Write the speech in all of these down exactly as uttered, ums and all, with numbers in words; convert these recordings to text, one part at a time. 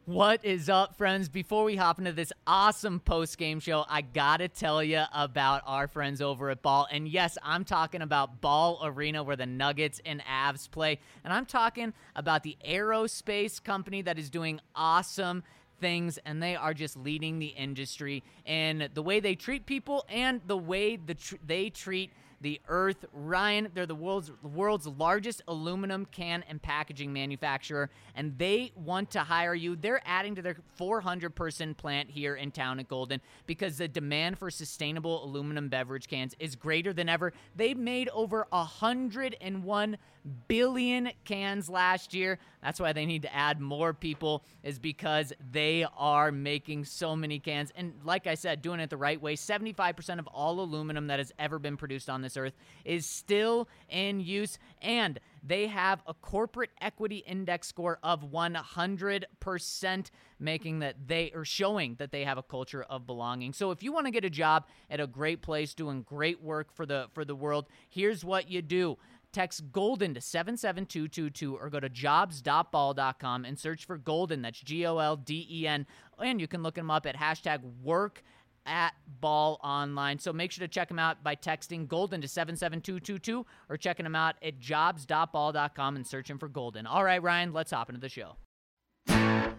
What is up, friends? Before we hop into this awesome post-game show, I gotta tell you about our friends over at Ball. And yes, I'm talking about Ball Arena, where the Nuggets and Avs play. And I'm talking about the aerospace company that is doing awesome things, and they are just leading the industry in the way they treat people and the way the tr- they treat the earth. Ryan, they're the world's world's largest aluminum can and packaging manufacturer, and they want to hire you. They're adding to their four hundred person plant here in town at Golden because the demand for sustainable aluminum beverage cans is greater than ever. They made over one hundred one billion cans last year. That's why they need to add more people, is because they are making so many cans. And like I said, doing it the right way. seventy-five percent of all aluminum that has ever been produced on this earth is still in use, and they have a corporate equity index score of one hundred percent, making that they are showing that they have a culture of belonging. So if you want to get a job at a great place doing great work for the for the world, here's what you do. Text Golden to seven seven two two two or go to jobs dot ball dot com and search for Golden. That's G O L D E N. And you can look them up at hashtag work at Ball Online. So make sure to check them out by texting Golden to seven seven two two two or checking them out at jobs dot ball dot com and searching for Golden. All right, Ryan, let's hop into the show. Number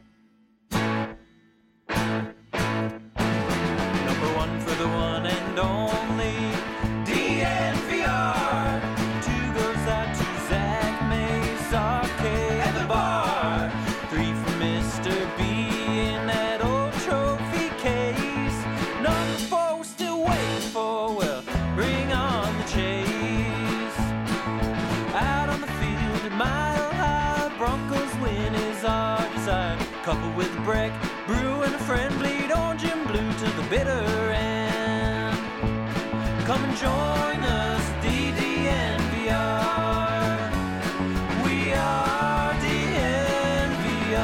one for the one and only D N V R. Two goes out to Zach Mace, Arcade, and the bar. Three for Mister B in that old trophy case. Number four we're still waiting for, well, bring on the chase. Out on the field at Mile High, Broncos win is our desire. Coupled with Breck, Brew, and a friend, bleed orange and blue to the bitter end. Come and join us, D D N V R. We are D N V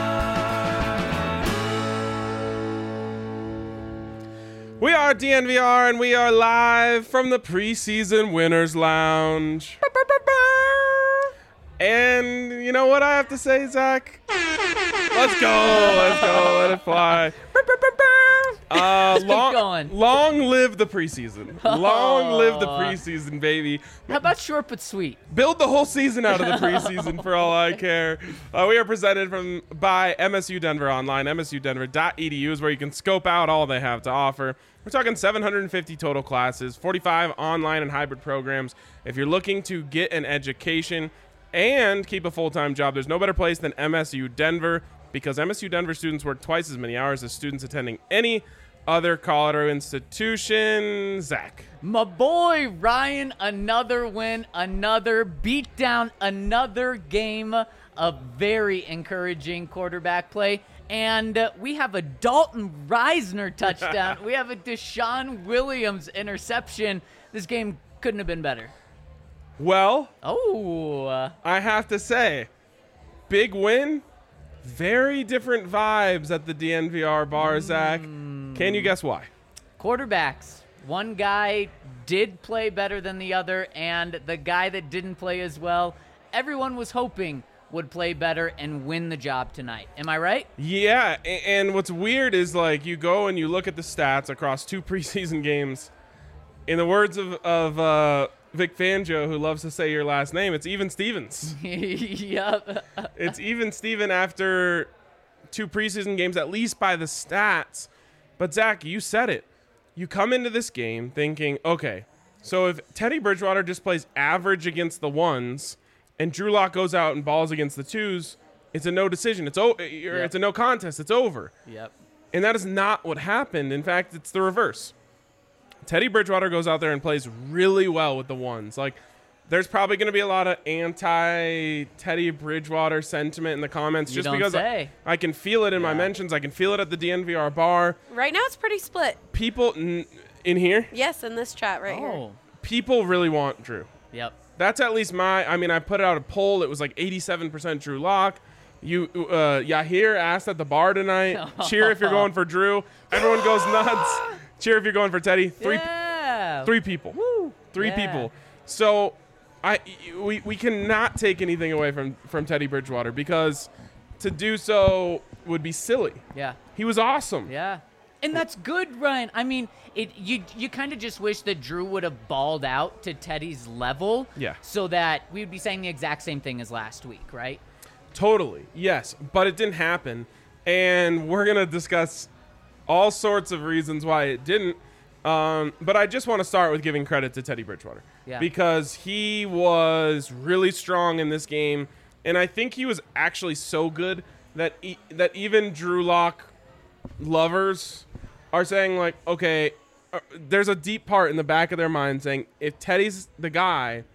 R. We are D N V R, and we are live from the preseason Winners Lounge. And you know what I have to say, Zach? Let's go, let's go, let it fly. Uh, keep long, going. long live the preseason. Long live the preseason, baby. How about short but sweet? Build the whole season out of the preseason for all I care. Uh, we are presented from by M S U Denver Online. M S U denver dot e d u is where you can scope out all they have to offer. We're talking seven hundred fifty total classes, forty-five online and hybrid programs. If you're looking to get an education and keep a full-time job, there's no better place than M S U Denver, because M S U Denver students work twice as many hours as students attending any other Colorado institution. Zach. My boy Ryan, another win, another beatdown, another game of very encouraging quarterback play. And uh, we have a Dalton Reisner touchdown. We have a Deshaun Williams interception. This game couldn't have been better. Well, Oh. uh, I have to say, big win. Very different vibes at the D N V R bar, Zach. Can you guess why? Quarterbacks. One guy did play better than the other, and the guy that didn't play as well, everyone was hoping would play better and win the job tonight. Am I right? Yeah, a- and what's weird is, like, you go and you look at the stats across two preseason games. In the words of, of uh, Vic Fangio, who loves to say your last name, it's even Stevens. Yep. It's even Steven after two preseason games, at least by the stats. But, Zach, you said it. You come into this game thinking, okay, so if Teddy Bridgewater just plays average against the ones and Drew Lock goes out and balls against the twos, it's a no decision. It's, o- Yep. it's a no contest. It's over. Yep. And that is not what happened. In fact, it's the reverse. Teddy Bridgewater goes out there and plays really well with the ones. Like, there's probably going to be a lot of anti-Teddy Bridgewater sentiment in the comments, You just don't because I, say. I can feel it in my Yeah. mentions. I can feel it at the D N V R bar. Right now it's pretty split. People n- in here, Yes, in this chat right here. Oh. people really want Drew. Yep. That's at least my, I mean, I put out a poll. It was like eighty-seven percent Drew Lock. You, uh, Yahir asked at the bar tonight, cheer if you're going for Drew. Everyone goes nuts. Cheer if you're going for Teddy. Three, Yeah. three people. Woo. Three Yeah. people. So I we, we cannot take anything away from, from Teddy Bridgewater, because to do so would be silly. Yeah. He was awesome. Yeah. And that's good, Ryan. I mean, it you you kind of just wish that Drew would have balled out to Teddy's level. Yeah. So that we would be saying the exact same thing as last week, right? Totally. Yes, but it didn't happen. And we're going to discuss all sorts of reasons why it didn't. Um, but I just want to start with giving credit to Teddy Bridgewater. Yeah. Because he was really strong in this game. And I think he was actually so good that e- that even Drew Lock lovers are saying, like, okay, uh, there's a deep part in the back of their mind saying, if Teddy's the guy,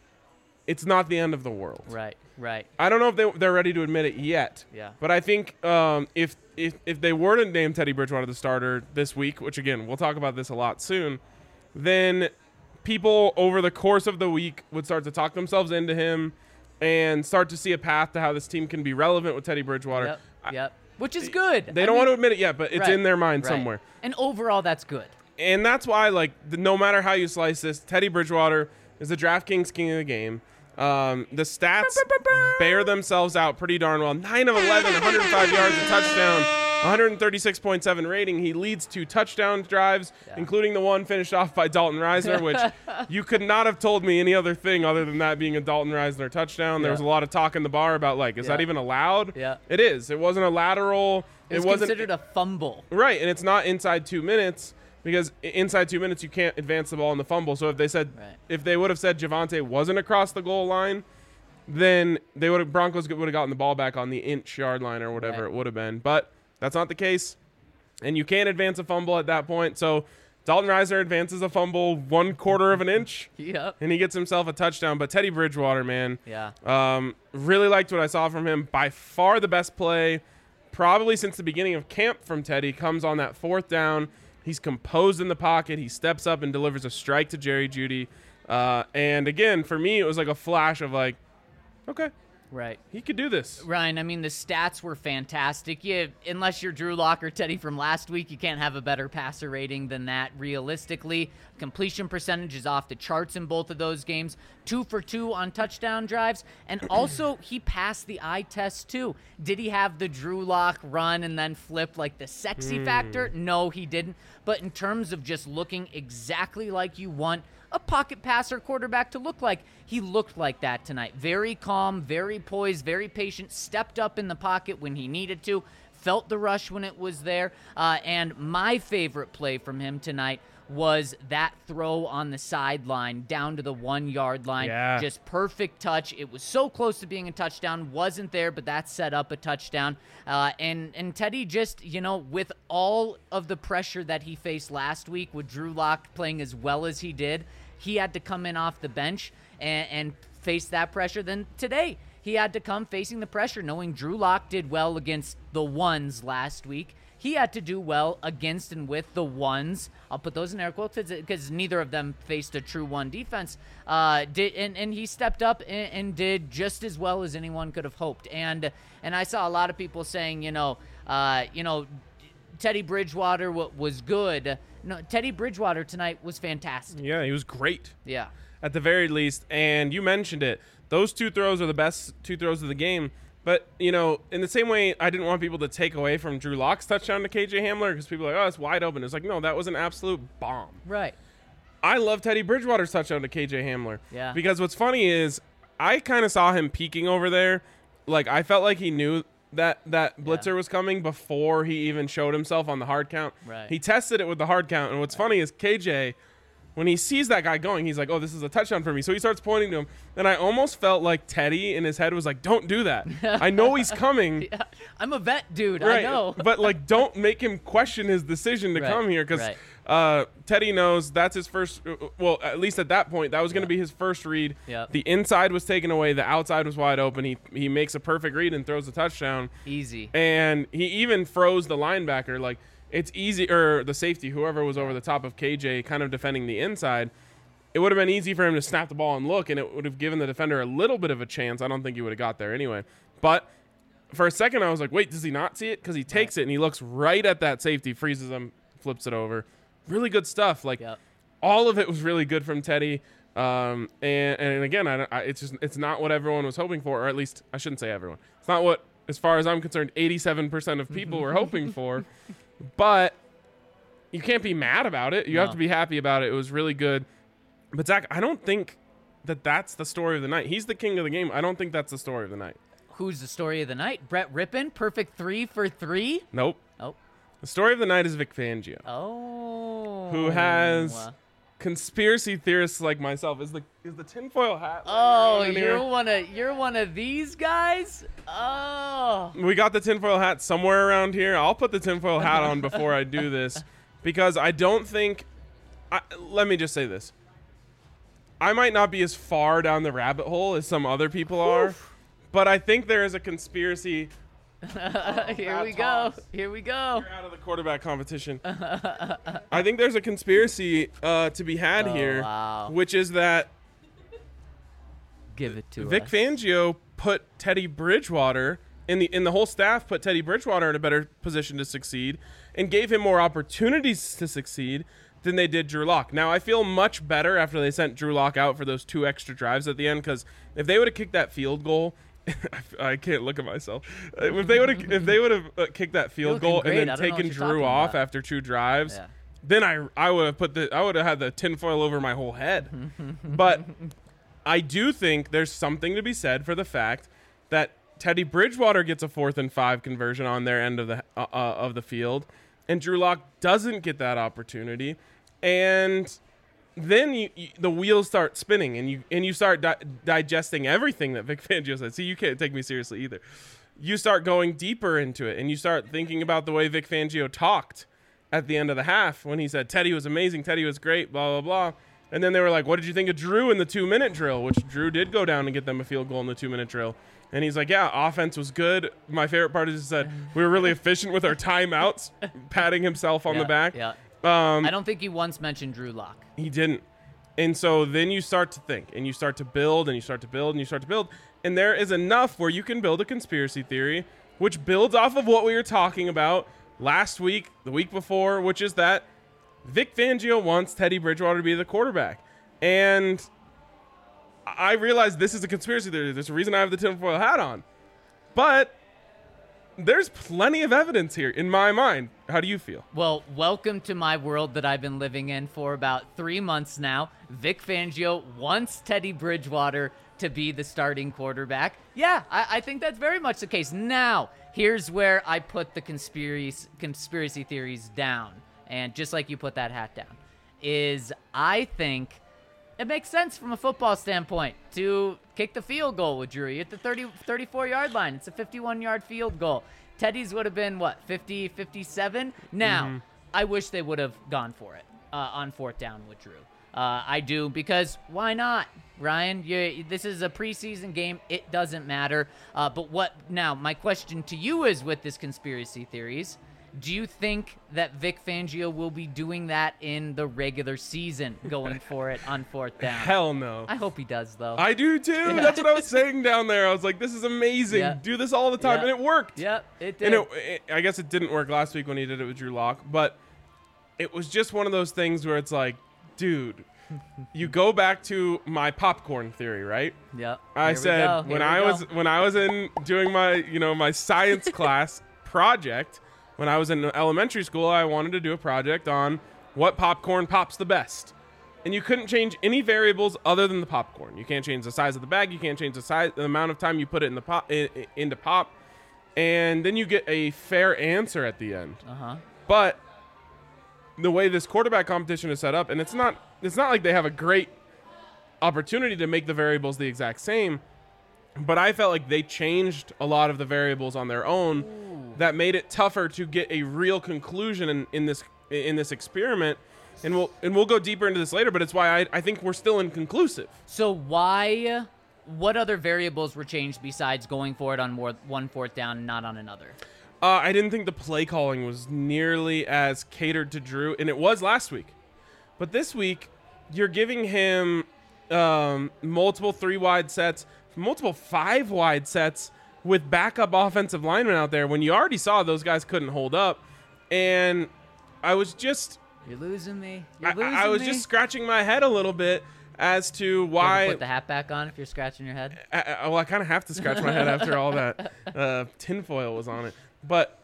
it's not the end of the world. Right, right. I don't know if they, they're ready to admit it yet. Yeah. But I think um, if, if if they were to name Teddy Bridgewater the starter this week, which, again, we'll talk about this a lot soon, then people over the course of the week would start to talk themselves into him and start to see a path to how this team can be relevant with Teddy Bridgewater. Yep, I- yep. Which is good. They I don't mean, want to admit it yet, but it's right, in their mind right. somewhere. And overall, that's good. And that's why, like, the, no matter how you slice this, Teddy Bridgewater is the DraftKings king of the game. Um, the stats bear themselves out pretty darn well. nine of eleven, one hundred five yards, a touchdown, one thirty-six point seven rating. He leads two touchdown drives, Yeah. including the one finished off by Dalton Reisner, which you could not have told me any other thing other than that being a Dalton Reisner touchdown. There Yeah. was a lot of talk in the bar about, like, is Yeah. that even allowed? Yeah. It is. It wasn't a lateral. It was wasn't considered a fumble. Right, and it's not inside two minutes because i- inside two minutes you can't advance the ball in the fumble. So if they said, Right. if they would have said Javonte wasn't across the goal line, then they would have Broncos would have gotten the ball back on the inch yard line or whatever Right. it would have been. But that's not the case, and you can't advance a fumble at that point. So Dalton Reisner advances a fumble one quarter of an inch, Yep. and he gets himself a touchdown. But Teddy Bridgewater, man, Yeah. um, really liked what I saw from him. By far the best play, probably since the beginning of camp from Teddy, comes on that fourth down. He's composed in the pocket. He steps up and delivers a strike to Jerry Jeudy. Uh, and again, for me, it was like a flash of like, okay, Right. he could do this. Ryan, I mean, the stats were fantastic. You, unless you're Drew Lock or Teddy from last week, you can't have a better passer rating than that, realistically. Completion percentage is off the charts in both of those games. Two for two on touchdown drives. And also, he passed the eye test, too. Did he have the Drew Lock run and then flip like the sexy factor? No, he didn't. But in terms of just looking exactly like you want a pocket passer quarterback to look like, he looked like that tonight. Very calm, very poised, very patient, stepped up in the pocket when he needed to, felt the rush when it was there. Uh, and my favorite play from him tonight was that throw on the sideline down to the one-yard line. Yeah. Just perfect touch. It was so close to being a touchdown. Wasn't there, but that set up a touchdown. Uh, and, and Teddy just, you know, with all of the pressure that he faced last week with Drew Lock playing as well as he did, he had to come in off the bench and, and face that pressure. Then today, he had to come facing the pressure, knowing Drew Lock did well against the ones last week. He had to do well against and with the ones. I'll put those in air quotes because neither of them faced a true one defense. Uh, did and, and he stepped up and, and did just as well as anyone could have hoped. And and I saw a lot of people saying, you know, uh, you know, Teddy Bridgewater w- was good. No, Teddy Bridgewater tonight was fantastic. Yeah, he was great Yeah. at the very least. And you mentioned it. Those two throws are the best two throws of the game. But, you know, in the same way, I didn't want people to take away from Drew Lock's touchdown to K J Hamler because people are like, oh, it's wide open. It's like, no, that was an absolute bomb. Right. I love Teddy Bridgewater's touchdown to K J Hamler. Yeah. Because what's funny is I kind of saw him peeking over there. Like, I felt like he knew that that blitzer Yeah. was coming before he even showed himself on the hard count. Right. He tested it with the hard count. And what's funny is K J, when he sees that guy going, he's like, oh, this is a touchdown for me. So he starts pointing to him. And I almost felt like Teddy in his head was like, don't do that. I know he's coming. Yeah. I'm a vet, dude. Right. I know. But, like, don't make him question his decision to Right, come here because right. uh, Teddy knows that's his first – well, at least at that point, that was going to be his first read. Yep. The inside was taken away. The outside was wide open. He he makes a perfect read and throws a touchdown. Easy. And he even froze the linebacker. Like, it's easy – or the safety, whoever was over the top of K J kind of defending the inside. It would have been easy for him to snap the ball and look, and it would have given the defender a little bit of a chance. I don't think he would have got there anyway. But for a second, I was like, wait, does he not see it? Because he takes it, and he looks right at that safety, freezes him, flips it over. Really good stuff. Like, Yep. all of it was really good from Teddy. Um, and, and again, I, I, it's just it's not what everyone was hoping for, or at least I shouldn't say everyone. It's not what as far as I'm concerned, eighty-seven percent of people were hoping for. But you can't be mad about it. You No. have to be happy about it. It was really good. But Zach, I don't think that that's the story of the night. He's the king of the game. I don't think that's the story of the night. Who's the story of the night? Brett Rippon, perfect three for three. Nope. Oh, The story of the night is Vic Fangio, oh. who has conspiracy theorists like myself. Is the is the tinfoil hat? Oh, around in you're here? one of you're one of these guys. Oh. We got the tinfoil hat somewhere around here. I'll put the tinfoil hat on before I do this because I don't think. I, let me just say this. I might not be as far down the rabbit hole as some other people are, but I think there is a conspiracy. Here we go. toss. Here we go. You're out of the quarterback competition. I think there's a conspiracy uh, to be had Oh, here, wow. which is that Give it to Vic us. Fangio put Teddy Bridgewater in the in the whole staff put Teddy Bridgewater in a better position to succeed and gave him more opportunities to succeed than they did Drew Lock. Now I feel much better after they sent Drew Lock out for those two extra drives at the end, because if they would have kicked that field goal, I can't look at myself. If they would have if they would have uh, kicked that field looking goal great. and I then don't know what taken you're Drew talking off about. after two drives, Yeah. then I I would have put the I would have had the tinfoil over my whole head. But I do think there's something to be said for the fact that Teddy Bridgewater gets a fourth and five conversion on their end of the uh, uh, of the field, and Drew Lock doesn't get that opportunity, and then you, you, the wheels start spinning, and you and you start di- digesting everything that Vic Fangio said. See, you can't take me seriously either. You start going deeper into it, and you start thinking about the way Vic Fangio talked at the end of the half when he said Teddy was amazing, Teddy was great, blah blah blah. And then they were like, what did you think of Drew in the two-minute drill? Which Drew did go down and get them a field goal in the two-minute drill. And he's like, yeah, offense was good. My favorite part is he said, we were really efficient with our timeouts, patting himself on Yeah, the back. Yeah. Um, I don't think he once mentioned Drew Lock. he didn't. And so then you start to think, and you start to build, and you start to build, and you start to build. And there is enough where you can build a conspiracy theory, which builds off of what we were talking about last week, the week before, which is that Vic Fangio wants Teddy Bridgewater to be the quarterback. And I realize this is a conspiracy theory. There's a reason I have the tinfoil hat on. But there's plenty of evidence here in my mind. How do you feel? Well, welcome to my world that I've been living in for about three months now. Vic Fangio wants Teddy Bridgewater to be the starting quarterback. Yeah, I, I think that's very much the case. Now, here's where I put the conspiracy conspiracy theories down. And just like you put that hat down, is I think it makes sense from a football standpoint to kick the field goal with Drew. You're at the thirty, thirty-four yard line. It's a fifty-one yard field goal. Teddy's would have been, what, fifty, fifty-seven? Now, Mm-hmm. I wish they would have gone for it uh, on fourth down with Drew. Uh, I do, because why not, Ryan? You, this is a preseason game. It doesn't matter. Uh, but what now, my question to you is, with this conspiracy theories, do you think that Vic Fangio will be doing that in the regular season, going for it on fourth down? Hell no. I hope he does, though. I do too. That's what I was saying down there. I was like, this is amazing. Yeah. Do this all the time. Yeah. And it worked. Yep, it did. And it, it, I guess it didn't work last week when he did it with Drew Lock, but it was just one of those things where it's like, dude, you go back to my popcorn theory, right? Yep. I Here we said go. when Here we I go. was when I was in doing my, you know, my science class project, when I was in elementary school, I wanted to do a project on what popcorn pops the best. And you couldn't change any variables other than the popcorn. You can't change the size of the bag, you can't change the size the amount of time you put it in the pop in, in- into pop. And then you get a fair answer at the end. Uh-huh. But the way this quarterback competition is set up, and it's not it's not like they have a great opportunity to make the variables the exact same, but I felt like they changed a lot of the variables on their own that made it tougher to get a real conclusion in, in this in this experiment. And we'll and we'll go deeper into this later, but it's why I, I think we're still inconclusive. So why, what other variables were changed besides going for it on more, one fourth down and not on another? Uh, I didn't think the play calling was nearly as catered to Drew, and it was last week. But this week, you're giving him um, multiple three-wide sets, multiple five-wide sets with backup offensive linemen out there when you already saw those guys couldn't hold up. And I was just... You're losing me. You're I, losing I was me. just scratching my head a little bit as to You ever why. put the hat back on if you're scratching your head? I, I, well, I kind of have to scratch my head after all that uh, tinfoil was on it. But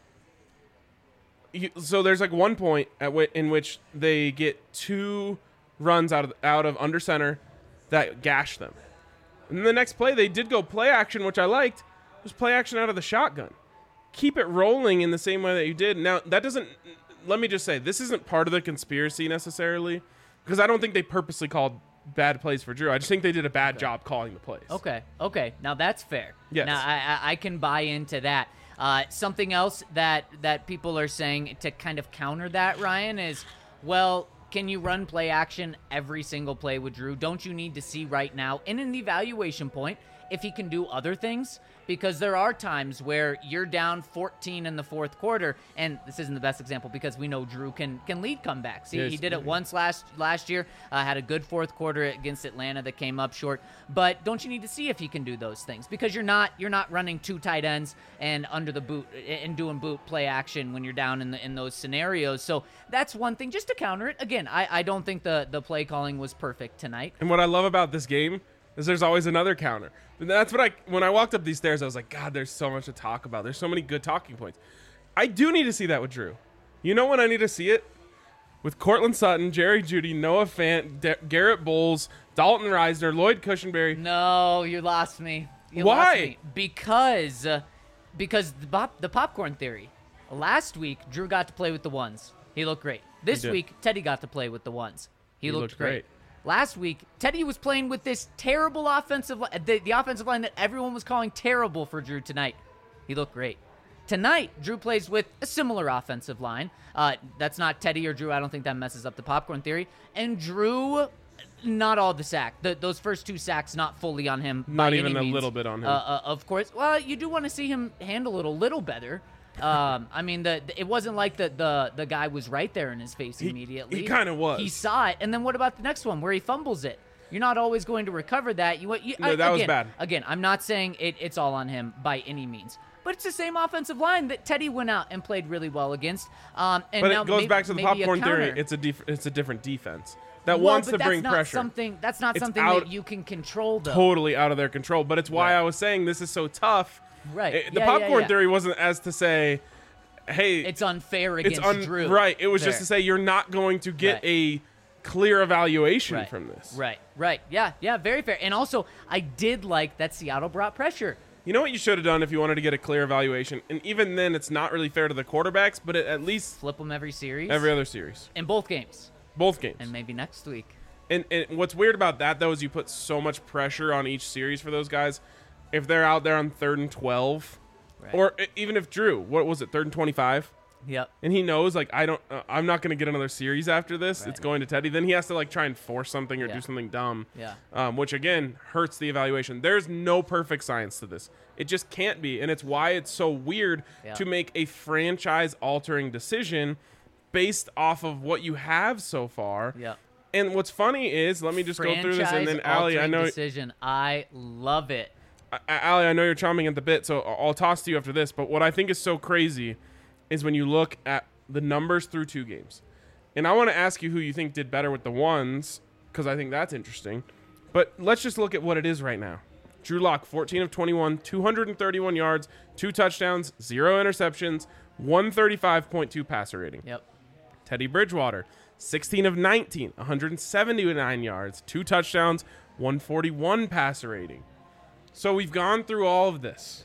you, so there's like one point at w- in which they get two runs out of out of under center that gash them. And then the next play, they did go play action, which I liked. It was play action out of the shotgun. Keep it rolling in the same way that you did. Now, that doesn't, let me just say, this isn't part of the conspiracy necessarily, because I don't think they purposely called bad plays for Drew. I just think they did a bad Okay. job calling the plays. Okay, okay. Now that's fair. Yes. Now I, I, I can buy into that. Uh, something else that, that people are saying to kind of counter that, Ryan, is, well, can you run play action every single play with Drew? Don't you need to see right now, in an evaluation point, if he can do other things? Because there are times where you're down fourteen in the fourth quarter, and this isn't the best example because we know Drew can can lead comebacks. He, Yes. he did it once last last year, uh, had a good fourth quarter against Atlanta that came up short. But don't you need to see if he can do those things? Because you're not you're not running two tight ends and under the boot and doing boot play action when you're down in the, in those scenarios. So that's one thing. Just to counter it, again, I, I don't think the the play calling was perfect tonight. And what I love about this game is there's always another counter. And that's what I, when I walked up these stairs, I was like, God, there's so much to talk about. There's so many good talking points. I do need to see that with Drew. You know when I need to see it? With Cortland Sutton, Jerry Jeudy, Noah Fant, De- Garrett Bowles, Dalton Reisner, Lloyd Cushenberry. No, you lost me. You Why? Lost me. Because, uh, because the, pop, the popcorn theory. Last week, Drew got to play with the ones. He looked great. This did. week, Teddy got to play with the ones. He, He looked, looked great. great. Last week, Teddy was playing with this terrible offensive line, the, the offensive line that everyone was calling terrible for Drew tonight. He looked great. Tonight, Drew plays with a similar offensive line. Uh, that's not Teddy or Drew. I don't think that messes up the popcorn theory. And Drew, not all the sack. The, those first two sacks, not fully on him. Not by even any a means. little bit on him. Uh, uh, of course. Well, you do want to see him handle it a little better. Um, I mean, the, the it wasn't like the, the the guy was right there in his face He- immediately. he kinda was. He saw it, and then what about the next one where he fumbles it? You're not always going to recover that. You, you No, I- that was again, bad. Again, I'm not saying it, it's all on him by any means, but it's the same offensive line that Teddy went out and played really well against. Um, and But now it goes maybe, back to the maybe a popcorn theory. counter. It's a def- it's a different defense that Well, wants but to that's bring not pressure. Something that's not It's something out- that you can control, though. Totally out of their control. But it's why Right. I was saying this is so tough. Right. It- the Yeah, yeah, popcorn yeah. theory wasn't as to say, hey, It's unfair it's against un- Drew. right. It was just Fair. to say you're not going to get Right. a clear evaluation Right. from this. Right, right. Yeah, yeah, very fair. And also, I did like that Seattle brought pressure. You know what you should have done if you wanted to get a clear evaluation? And even then, it's not really fair to the quarterbacks, but it, at least Flip them every series. every other series. In both games. Both games. And maybe next week. And, and what's weird about that, though, is you put so much pressure on each series for those guys. If they're out there on third and twelve, Right. or e- even if Drew, what was it, third and twenty-five? Yep. And he knows, like, I don't, uh, I'm not going to get another series after this. Right. It's going to Teddy. Then he has to, like, try and force something or Yeah. do something dumb. Yeah. Um, which, again, hurts the evaluation. There's no perfect science to this. It just can't be. And it's why it's so weird Yeah. to make a franchise-altering decision based off of what you have so far. Yep. And what's funny is, let me just go through this, and then Allie, I Franchise-altering know, decision. I love it. I- Allie, I know you're chomping at the bit, so I- I'll toss to you after this. But what I think is so crazy is when you look at the numbers through two games. And I want to ask you who you think did better with the ones, because I think that's interesting. But let's just look at what it is right now. Drew Lock, fourteen of twenty-one, two hundred thirty-one yards, two touchdowns, zero interceptions, one thirty-five point two passer rating. Yep. Teddy Bridgewater, sixteen of nineteen, one hundred seventy-nine yards, two touchdowns, one forty-one passer rating. So we've gone through all of this.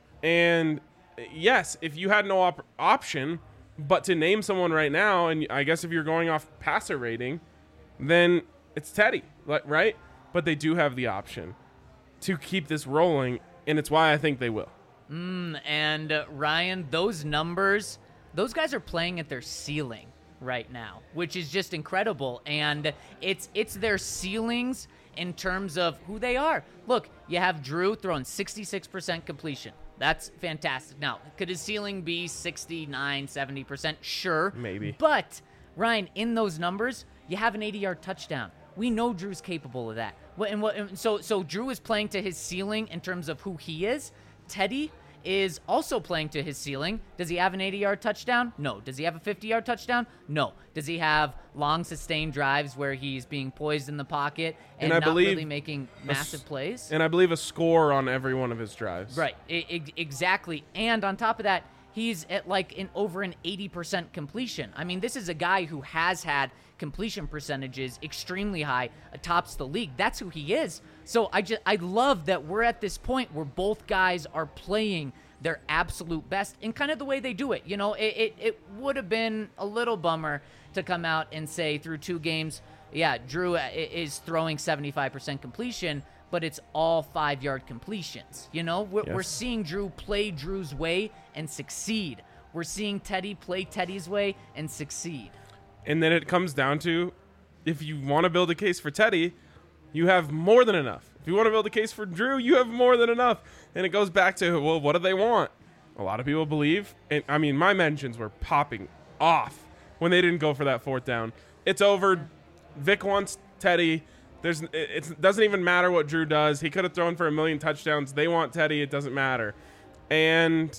And yes, if you had no op- option but to name someone right now, and I guess if you're going off passer rating, then it's Teddy, like, right? But they do have the option to keep this rolling, and it's why I think they will. Mm, and uh, Ryan, those numbers, those guys are playing at their ceiling right now, which is just incredible. And it's it's their ceilings in terms of who they are. Look, you have Drew throwing sixty-six percent completion. That's fantastic. Now, could his ceiling be sixty-nine, seventy percent? Sure. Maybe. But, Ryan, in those numbers, you have an eighty-yard touchdown. We know Drew's capable of that. What and what? and So, so Drew is playing to his ceiling in terms of who he is. Teddy is also playing to his ceiling. Does he have an eighty-yard touchdown? No. Does he have a fifty-yard touchdown? No. Does he have long, sustained drives where he's being poised in the pocket and, And I not believe really making a s- massive plays? And I believe a score on every one of his drives. Right, I- I- exactly. And on top of that, he's at like an over an eighty percent completion. I mean, this is a guy who has had completion percentages extremely high, tops the league. That's who he is. So I just I love that we're at this point where both guys are playing their absolute best in kind of the way they do it. You know, it it, it would have been a little bummer to come out and say through two games, yeah, Drew i- is throwing seventy-five percent completion, but it's all five-yard completions. You know, we're, we're Yes. seeing Drew play Drew's way and succeed. We're seeing Teddy play Teddy's way and succeed. And then it comes down to, if you want to build a case for Teddy, you have more than enough. If you want to build a case for Drew, you have more than enough. And it goes back to, well, what do they want? A lot of people believe, and I mean, my mentions were popping off when they didn't go for that fourth down. It's over. Vic wants Teddy. There's, it it's- doesn't even matter what Drew does. He could have thrown for a million touchdowns. They want Teddy. It doesn't matter. And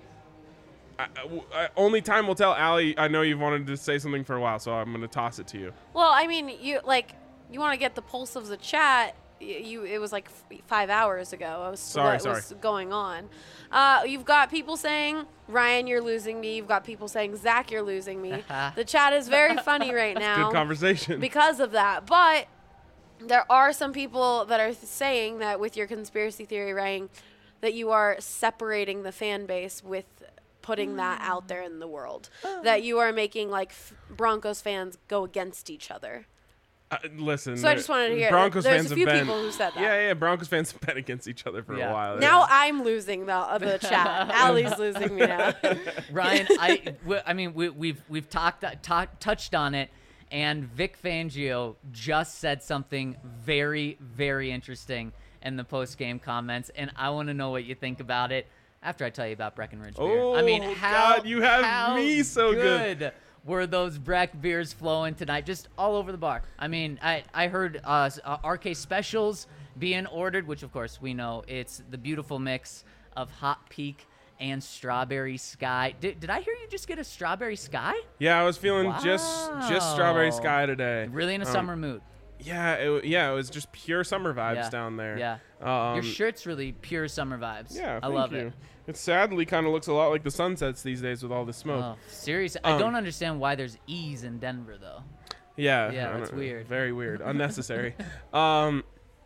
I, I, only time will tell. Allie, I know you've wanted to say something for a while, so I'm going to toss it to you. Well, I mean, you like you want to get the pulse of the chat. y- You it was like f- five hours ago. I was Sorry, what sorry. was going on. Uh, you've got people saying Ryan, you're losing me. You've got people saying Zach, you're losing me. The chat is very funny right now Good conversation. because of that. But there are some people that are th- saying that with your conspiracy theory, Ryan, that you are separating the fan base with putting that out there in the world. That you are making like f- Broncos fans go against each other. Uh, listen. So I there- just wanted to hear. Broncos There's fans a few have been, people who said that. Yeah, yeah. Broncos fans have been against each other for Yeah. a while. Now I'm losing the uh, the chat. Allie's losing me now. Ryan, I, we- I mean, we, we've we've talked ta- touched on it, and Vic Fangio just said something very, very interesting in the post game comments, and I want to know what you think about it after I tell you about Breckenridge beer. I mean, Oh, how God, you have how me so good. good were those Breck beers flowing tonight, just all over the bar. I mean, I I heard uh, s- uh, R K specials being ordered, which of course we know it's the beautiful mix of Hot Peak and Strawberry Sky. Did, did I hear you just get a Strawberry Sky? Yeah, I was feeling just just strawberry Wow. sky today. Really in a Um, summer mood. Yeah, it, w- yeah, it was just pure summer vibes Yeah. down there. Yeah. Um, Your shirt's really pure summer vibes. Yeah, I thank love you. it. It sadly kind of looks a lot like the sunsets these days with all the smoke. Oh, seriously, I Um, don't understand why there's E's in Denver though. Yeah, Yeah, I don't that's know, weird. Very weird, unnecessary. um,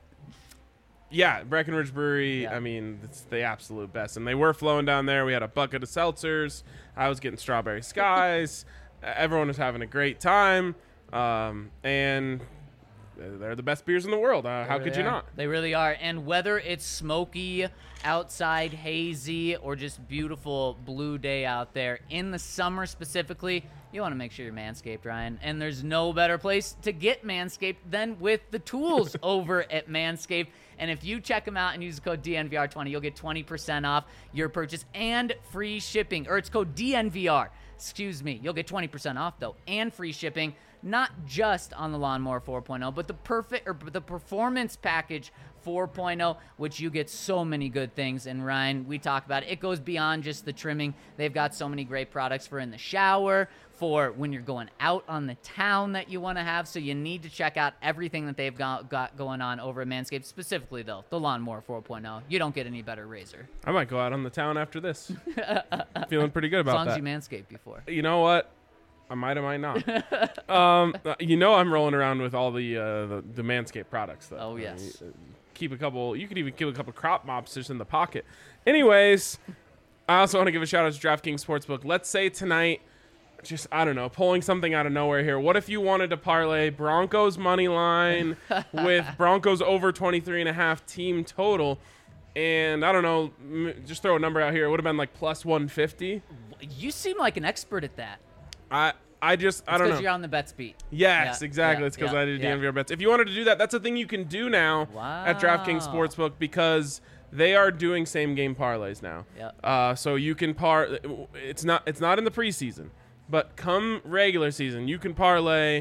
yeah, Breckenridge Brewery. Yeah. I mean, it's the absolute best, and they were flowing down there. We had a bucket of seltzers. I was getting strawberry skies. Everyone was having a great time, um, and they're the best beers in the world. Uh, how They could really you are. not? They really are. And whether it's smoky outside, hazy, or just beautiful blue day out there, in the summer specifically, you want to make sure you're Manscaped, Ryan. And there's no better place to get Manscaped than with the tools over at Manscaped. And if you check them out and use the code D N V R twenty, you'll get twenty percent off your purchase and free shipping. Or it's code D N V R. Excuse me. You'll get twenty percent off, though, and free shipping. Not just on the Lawnmower four point oh, but the perfect or the Performance Package four point oh, which you get so many good things. And Ryan, we talk about it. It goes beyond just the trimming. They've got so many great products for in the shower, for when you're going out on the town that you want to have. So you need to check out everything that they've got, got going on over at Manscaped, specifically, though, the Lawnmower four point oh. You don't get any better razor. I might go out on the town after this. Feeling pretty good As about long that. as you Manscaped before. You know what? I might, I might not. um, uh, you know, I'm rolling around with all the uh, the, the Manscaped products, though. Oh, Uh, yes. you- uh, keep a couple. You could even keep a couple crop mops just in the pocket. Anyways, I also want to give a shout out to DraftKings Sportsbook. Let's say tonight, just I don't know, pulling something out of nowhere here. What if you wanted to parlay Broncos money line with Broncos over twenty-three and a half team total? And I don't know, m- just throw a number out here. It would have been like plus one fifty. You seem like an expert at that. I I just I don't know. Because you're on the bets beat. Yes, Yeah, exactly. yeah, It's because yeah, I did yeah. D N V R bets. If you wanted to do that, that's a thing you can do now at DraftKings Wow. Sportsbook because they are doing same game parlays now. Yeah. Uh, so you can par. It's not. It's not in the preseason, but come regular season, you can parlay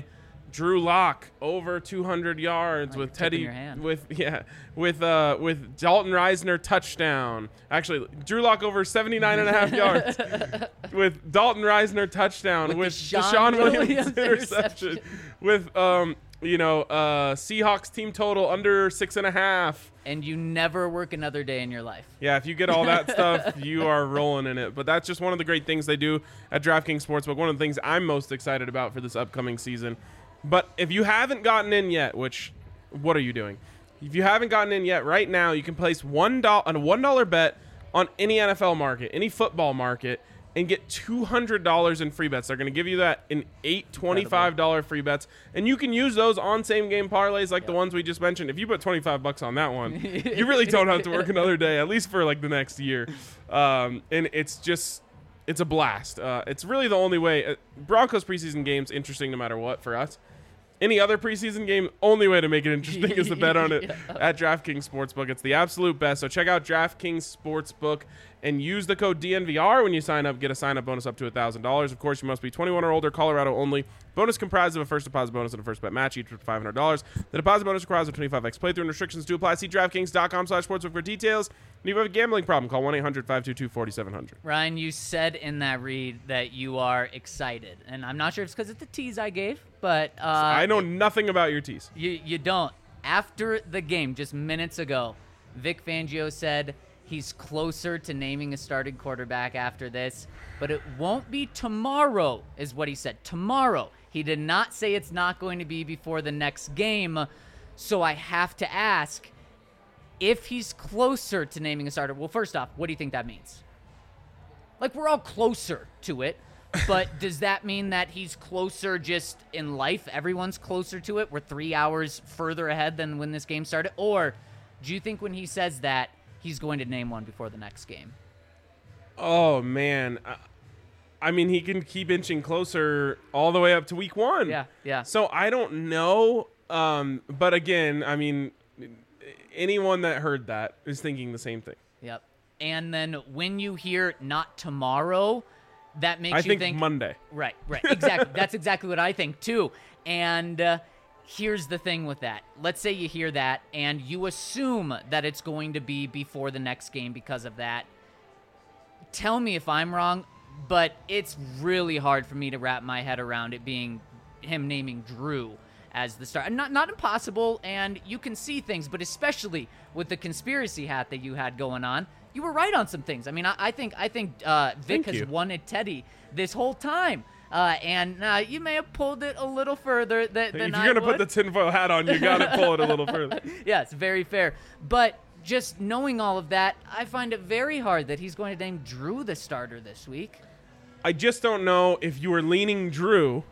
Drew Lock over two hundred yards Oh, with you're Teddy tipping your hand. with yeah with uh with Dalton Reisner touchdown. Actually, Drew Lock over seventy-nine and a half yards with Dalton Reisner touchdown With with Deshaun Deshaun Williams, Williams interception interception. with um you know uh Seahawks team total under six and a half. And you never work another day in your life. Yeah, if you get all that stuff, you are rolling in it. But that's just one of the great things they do at DraftKings Sportsbook. One of the things I'm most excited about for this upcoming season. But if you haven't gotten in yet, which, what are you doing? If you haven't gotten in yet, right now you can place one dollar on a one dollar bet on any N F L market, any football market, and get two hundred dollars in free bets. They're going to give you that in eight twenty-five dollar free bets, and you can use those on same game parlays like the ones we just mentioned. If you put twenty-five bucks on that one, you really don't have to work another day, at least for like the next year. Um, and it's just, it's a blast. Uh, it's really the only way. Uh, Broncos preseason games interesting no matter what for us. Any other preseason game, only way to make it interesting is to bet on it Yeah. at DraftKings Sportsbook. It's the absolute best. So check out DraftKings Sportsbook and use the code D N V R when you sign up. Get a sign-up bonus up to one thousand dollars. Of course, you must be twenty-one or older, Colorado only. Bonus comprised of a first deposit bonus and a first bet match, each with five hundred dollars. The deposit bonus requires a twenty-five x playthrough and restrictions do apply. See DraftKings.com slash sportsbook for details. And if you have a gambling problem, call one eight hundred five two two four seven zero zero. Ryan, you said in that read that you are excited. And I'm not sure if it's because of the tease I gave, but uh, I know nothing about your tease. You you don't. After the game, just minutes ago, Vic Fangio said he's closer to naming a starting quarterback after this, but it won't be tomorrow, is what he said. Tomorrow. He did not say it's not going to be before the next game. So I have to ask, if he's closer to naming a starter, well, first off, what do you think that means? Like, we're all closer to it. But does that mean that he's closer just in life? Everyone's closer to it? We're three hours further ahead than when this game started? Or do you think when he says that, he's going to name one before the next game? Oh, man. Uh, I mean, he can keep inching closer all the way up to week one. Yeah, yeah. So I don't know. Um, but again, I mean, anyone that heard that is thinking the same thing. Yep. And then when you hear not tomorrow, that makes I you think, think Monday. Right, right. Exactly. That's exactly what I think too. And uh, here's the thing with that. Let's say you hear that and you assume that it's going to be before the next game because of that. Tell me if I'm wrong, but it's really hard for me to wrap my head around it being him naming Drew as the star. Not not impossible, and you can see things, but especially with the conspiracy hat that you had going on, you were right on some things. I mean, I, I think I think uh, Vic Thank has you. wanted Teddy this whole time, uh, and uh, you may have pulled it a little further than, than If I you're going to would. put the tinfoil hat on, you got to pull it a little further. Yes, very fair. But just knowing all of that, I find it very hard that he's going to name Drew the starter this week. I just don't know if you were leaning Drew,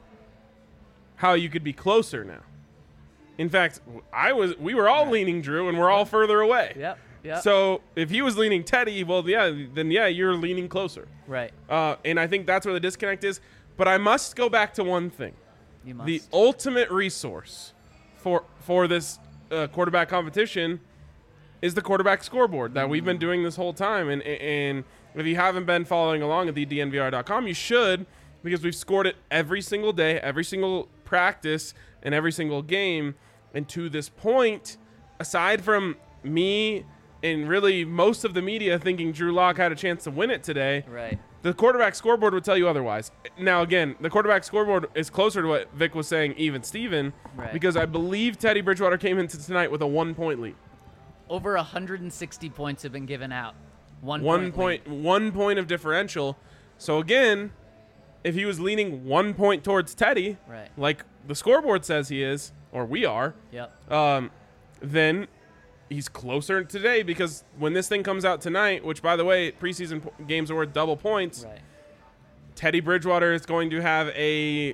how you could be closer now. In fact, I was. We were all leaning Drew, and we're all further away. Yep, yep. So if he was leaning Teddy, well, yeah, then yeah, you're leaning closer. Right. Uh, and I think that's where the disconnect is. But I must go back to one thing: You must. the ultimate resource for for this uh, quarterback competition is the quarterback scoreboard that we've been doing this whole time. And and if you haven't been following along at the D N V R dot com, you should, because we've scored it every single day, every single practice, and every single game. And to this point, aside from me and really most of the media thinking Drew Lock had a chance to win it today, Right. the quarterback scoreboard would tell you otherwise. Now, again, the quarterback scoreboard is closer to what Vic was saying, even Steven, Right. because I believe Teddy Bridgewater came into tonight with a one-point lead. Over one hundred sixty points have been given out. One, One point. point, lead. one point of differential. So, again, if he was leaning one point towards Teddy, Right. like the scoreboard says he is, or we are, Yep. um, then he's closer today, because when this thing comes out tonight, which, by the way, preseason po- games are worth double points, Right. Teddy Bridgewater is going to have a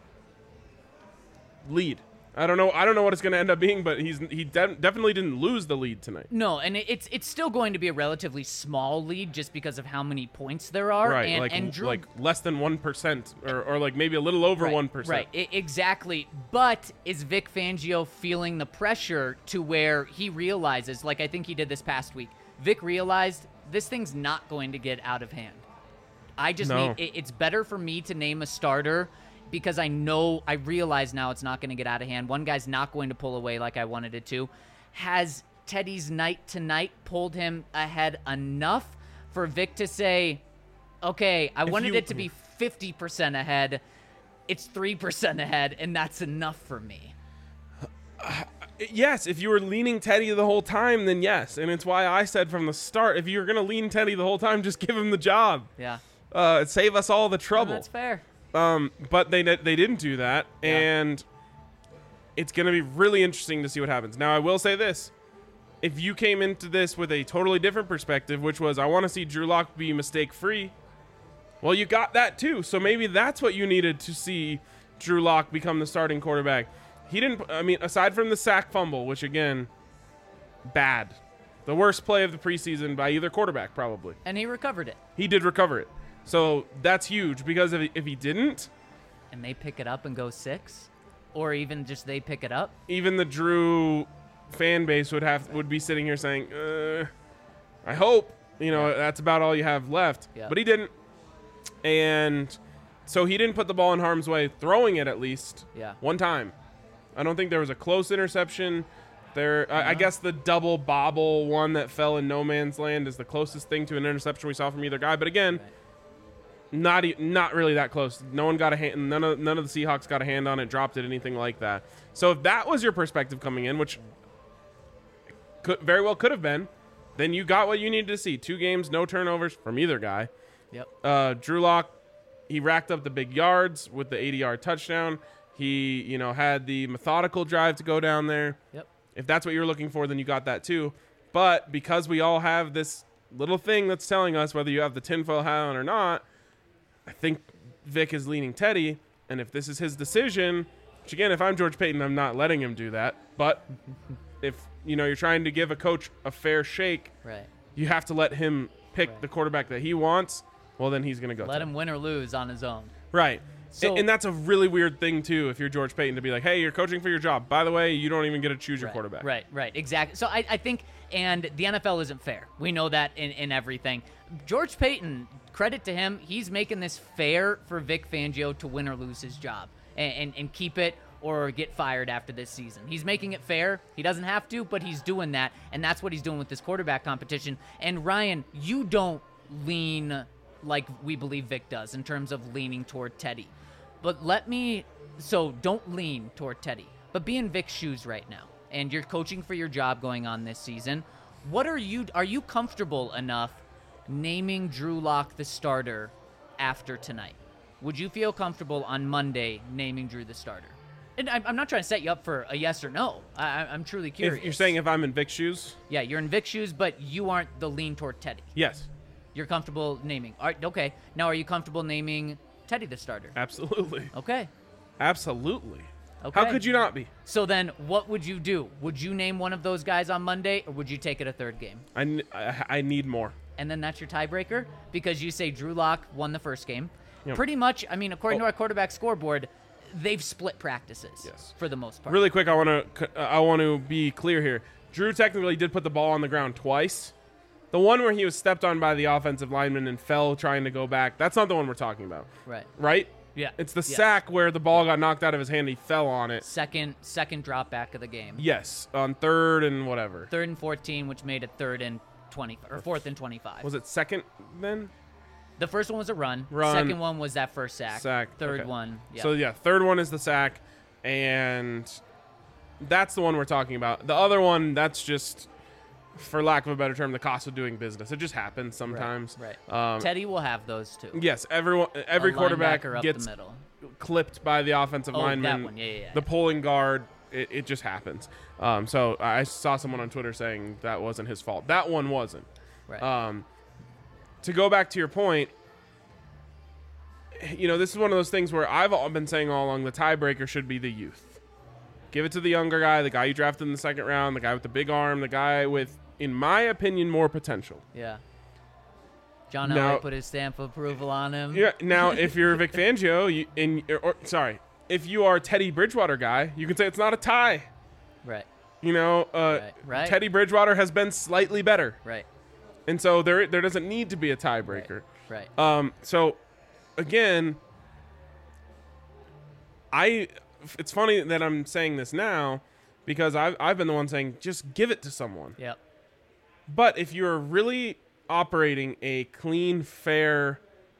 lead. I don't know. I don't know what it's going to end up being, but he's he de- definitely didn't lose the lead tonight. No, and it, it's it's still going to be a relatively small lead just because of how many points there are. Right, and, like and Drew, like less than one percent, or or like maybe a little over right, one percent. Right, I- exactly. But is Vic Fangio feeling the pressure to where he realizes, like I think he did this past week, Vic realized this thing's not going to get out of hand. I just No. need, it, it's better for me to name a starter because I know, I realize now it's not going to get out of hand. One guy's not going to pull away like I wanted it to. Has Teddy's night tonight pulled him ahead enough for Vic to say, okay, I If wanted you- it to be fifty percent ahead. It's three percent ahead, and that's enough for me. Yes, if you were leaning Teddy the whole time, then yes. And it's why I said from the start, if you're going to lean Teddy the whole time, just give him the job. Yeah. Uh, save us all the trouble. That's fair. Um, but they they didn't do that, Yeah. and it's going to be really interesting to see what happens. Now, I will say this. If you came into this with a totally different perspective, which was, I want to see Drew Lock be mistake-free, well, you got that too. So maybe that's what you needed to see Drew Lock become the starting quarterback. He didn't, I mean, aside from the sack fumble, which, again, bad. The worst play of the preseason by either quarterback, probably. And he recovered it. He did recover it. So that's huge, because if he, if he didn't, And they pick it up and go six? Or even just they pick it up? even the Drew fan base would have would be sitting here saying, uh, I hope, you know, Yeah. that's about all you have left. Yeah. But he didn't. And so he didn't put the ball in harm's way, throwing it at least Yeah. one time. I don't think there was a close interception. There, I, I Uh-huh. guess the double bobble one that fell in no man's land is the closest thing to an interception we saw from either guy. But again, Right. not e- not really that close. No one got a hand. None of none of the Seahawks got a hand on it, dropped it, anything like that. So if that was your perspective coming in, which could very well could have been, then you got what you needed to see. Two games, no turnovers from either guy. Yep. Uh, Drew Lock, he racked up the big yards with the eighty-yard touchdown. He, you know, had the methodical drive to go down there. Yep. If that's what you're looking for, then you got that too. But because we all have this little thing that's telling us whether you have the tinfoil hat on or not, I think Vic is leaning Teddy. And if this is his decision, which again, if I'm George Payton, I'm not letting him do that. But if, you know, you're trying to give a coach a fair shake, Right. you have to let him pick Right. the quarterback that he wants. Well, then he's going to go. Let to him win or lose on his own. Right. So- and, and that's a really weird thing, too, if you're George Payton, to be like, hey, you're coaching for your job. By the way, you don't even get to choose your Right, quarterback. Right, right, exactly. So I, I think, and the N F L isn't fair. We know that in, in everything. George Payton, credit to him, he's making this fair for Vic Fangio to win or lose his job and, and, and keep it or get fired after this season. He's making it fair. He doesn't have to, but he's doing that, and that's what he's doing with this quarterback competition. And Ryan, you don't lean like we believe Vic does in terms of leaning toward Teddy. But let me, so don't lean toward Teddy, but be in Vic's shoes right now. And you're coaching for your job going on this season. What are you, are you comfortable enough naming Drew Lock the starter after tonight? Would you feel comfortable on Monday naming Drew the starter? And I'm, I'm not trying to set you up for a yes or no. I, I- I'm truly curious. If you're saying if I'm in Vic's shoes, Yeah, you're in Vic's shoes, but you aren't the lean toward Teddy. yes, You're comfortable naming. All right, okay. Now, are you comfortable naming Teddy the starter? absolutely. Okay. Absolutely. Okay. How could you not be? So then, what would you do? Would you name one of those guys on Monday, or would you take it a third game? I, n- I- I need more. And then that's your tiebreaker because you say Drew Lock won the first game. Yep. Pretty much, I mean, according Oh. to our quarterback scoreboard, they've split practices Yes. for the most part. Really quick, I want to I want to be clear here. Drew technically did put the ball on the ground twice. The one where he was stepped on by the offensive lineman and fell trying to go back, that's not the one we're talking about, Right. right? Yeah. It's the Yes. sack where the ball got knocked out of his hand. He fell on it. Second, second drop back of the game. Yes, on third and whatever. Third and fourteen, which made it third and twenty or fourth and twenty-five. Was it second then? The first one was a run. Run. Second one was that first sack. Sack. Third okay. one. Yeah. So yeah, third one is the sack, and that's the one we're talking about. The other one, that's just, for lack of a better term, the cost of doing business. It just happens sometimes. Right. Um, Teddy will have those two. yes, everyone, every A quarterback linebacker up gets the middle. clipped by the offensive Oh, that lineman. one. Yeah, yeah, yeah. The pulling guard. It, it just happens. Um, so I saw someone on Twitter saying that wasn't his fault. That one wasn't. Right. Um, to go back to your point, you know, this is one of those things where I've all been saying all along the tiebreaker should be the youth. Give it to the younger guy, the guy you drafted in the second round, the guy with the big arm, the guy with, in my opinion, more potential. yeah. John Now- Elway put his stamp of approval on him. Yeah. Now, if you're Vic Fangio, you, in, or, or sorry, if you are Teddy Bridgewater guy, you can say it's not a tie. Right. You know, uh, Right, right. Teddy Bridgewater has been slightly better, Right. and so there there doesn't need to be a tiebreaker. Right. Um, so, again, I, it's funny that I'm saying this now because I've, I've been the one saying, just give it to someone. Yep. But if you're really operating a clean, fair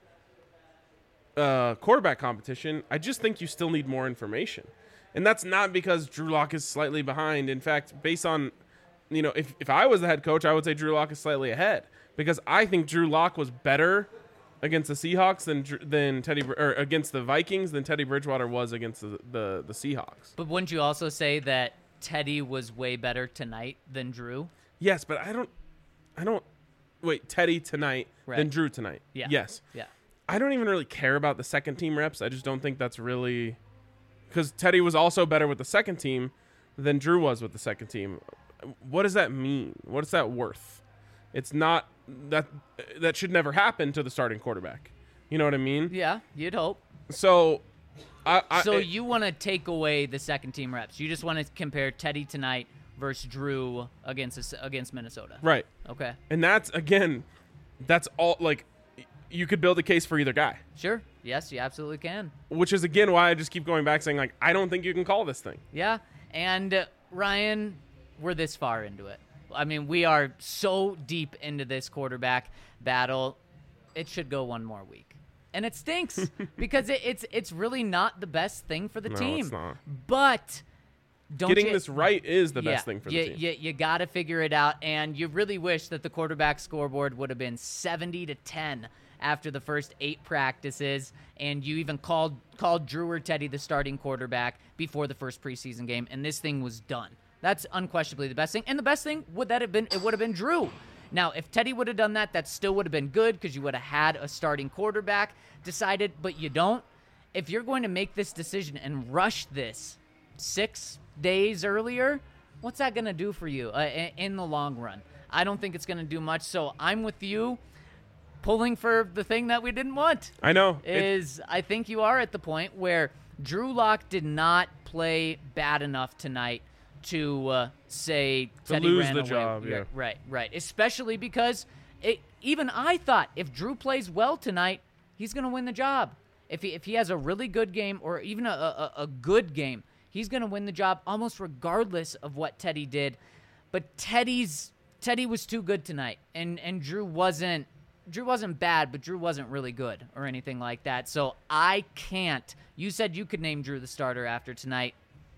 uh, quarterback competition, I just think you still need more information. And that's not because Drew Lock is slightly behind. In fact, based on, you know, if, if I was the head coach, I would say Drew Lock is slightly ahead because I think Drew Lock was better against the Seahawks than than Teddy or against the Vikings than Teddy Bridgewater was against the, the, the Seahawks. But wouldn't you also say that Teddy was way better tonight than Drew? Yes, but I don't, I don't, wait, Teddy tonight Right. than Drew tonight. Yeah. Yes. Yeah. I don't even really care about the second team reps. I just don't think that's really, because Teddy was also better with the second team than Drew was with the second team. What does that mean? What is that worth? It's not that that should never happen to the starting quarterback. You know what I mean? Yeah, you'd hope. So, I, I So it- you want to take away the second team reps. You just want to compare Teddy tonight versus Drew against this- against Minnesota. right, Okay. and that's again, that's all. Like, you could build a case for either guy, Sure. Yes, you absolutely can. which is again why I just keep going back saying like I don't think you can call this thing. Yeah. And uh, Ryan, we're this far into it. I mean, we are so deep into this quarterback battle. It should go one more week. And it stinks because it, it's it's really not the best thing for the No, team. it's not. But don't Getting you, this right is the yeah, best thing for the you, team. You, you got to figure it out, and you really wish that the quarterback scoreboard would have been seventy to ten after the first eight practices, and you even called called Drew or Teddy the starting quarterback before the first preseason game, and this thing was done. That's unquestionably the best thing, and the best thing would that have been? It would have been Drew. Now, if Teddy would have done that, that still would have been good because you would have had a starting quarterback decided, but you don't. If you're going to make this decision and rush this six days earlier, what's that going to do for you uh, in, in the long run? I don't think it's going to do much, so I'm with you pulling for the thing that we didn't want. I know. It- Is I think you are at the point where Drew Lock did not play bad enough tonight to uh, say To Teddy lose ran the away. job, yeah. Right, right. Especially because it, even I thought if Drew plays well tonight, he's going to win the job. If he if he has a really good game or even a a, a good game, he's going to win the job almost regardless of what Teddy did. But Teddy's Teddy was too good tonight, and and Drew wasn't. Drew wasn't bad, but Drew wasn't really good or anything like that. So I can't. You said you could name Drew the starter after tonight.